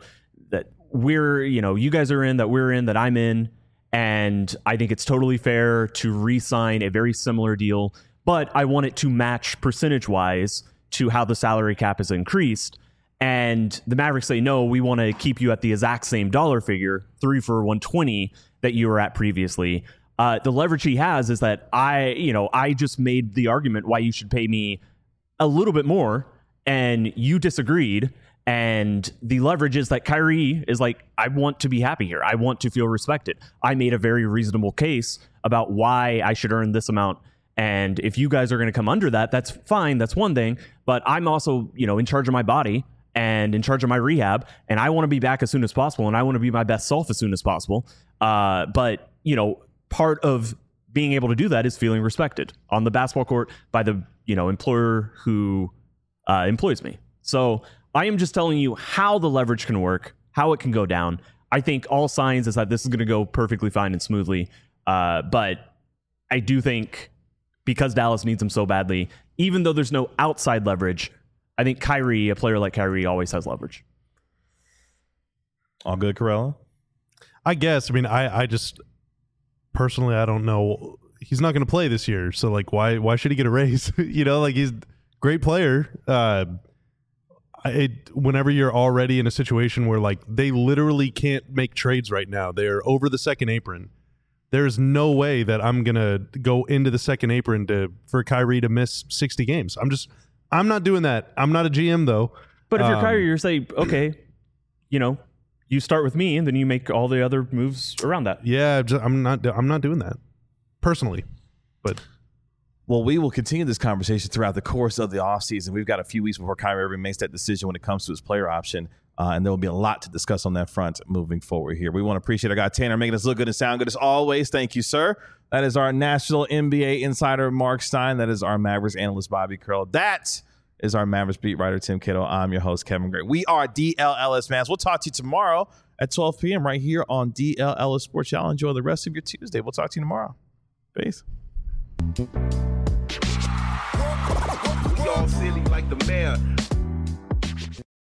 we're, you guys are in, that we're in, that I'm in, and I think it's totally fair to re-sign a very similar deal, but I want it to match percentage-wise to how the salary cap is increased. And the Mavericks say, no, we want to keep you at the exact same dollar figure, 3 for $120 that you were at previously. The leverage he has is that I just made the argument why you should pay me a little bit more, and you disagreed. And the leverage is that Kyrie is like, I want to be happy here. I want to feel respected. I made a very reasonable case about why I should earn this amount. And if you guys are going to come under that, that's fine. That's one thing. But I'm also, in charge of my body and in charge of my rehab. And I want to be back as soon as possible. And I want to be my best self as soon as possible. But, part of being able to do that is feeling respected on the basketball court by the, employer who employs me. So I am just telling you how the leverage can work, how it can go down. I think all signs is that this is going to go perfectly fine and smoothly. But I do think because Dallas needs him so badly, even though there's no outside leverage, I think Kyrie, a player like Kyrie, always has leverage. All good, Corella? I guess. I mean, I just personally, I don't know. He's not going to play this year, so like, why should he get a raise? He's a great player. Whenever you're already in a situation where like they literally can't make trades right now, they're over the second apron. There's no way that I'm gonna go into the second apron for Kyrie to miss 60 games. I'm not doing that. I'm not a GM though. But if you're Kyrie, you're saying, okay, you you start with me, and then you make all the other moves around that. Yeah, I'm not doing that personally, but. Well, we will continue this conversation throughout the course of the offseason. We've got a few weeks before Kyrie Irving makes that decision when it comes to his player option, and there will be a lot to discuss on that front moving forward here. We want to appreciate our guy Tanner making us look good and sound good as always. Thank you, sir. That is our national NBA insider, Mark Stein. That is our Mavericks analyst, Bobby Curl. That is our Mavericks beat writer, Tim Cato. I'm your host, Kevin Gray. We are DLLS Mavs. We'll talk to you tomorrow at 12 p.m. right here on DLLS Sports. Y'all enjoy the rest of your Tuesday. We'll talk to you tomorrow. Peace. Y'all silly like the mayor.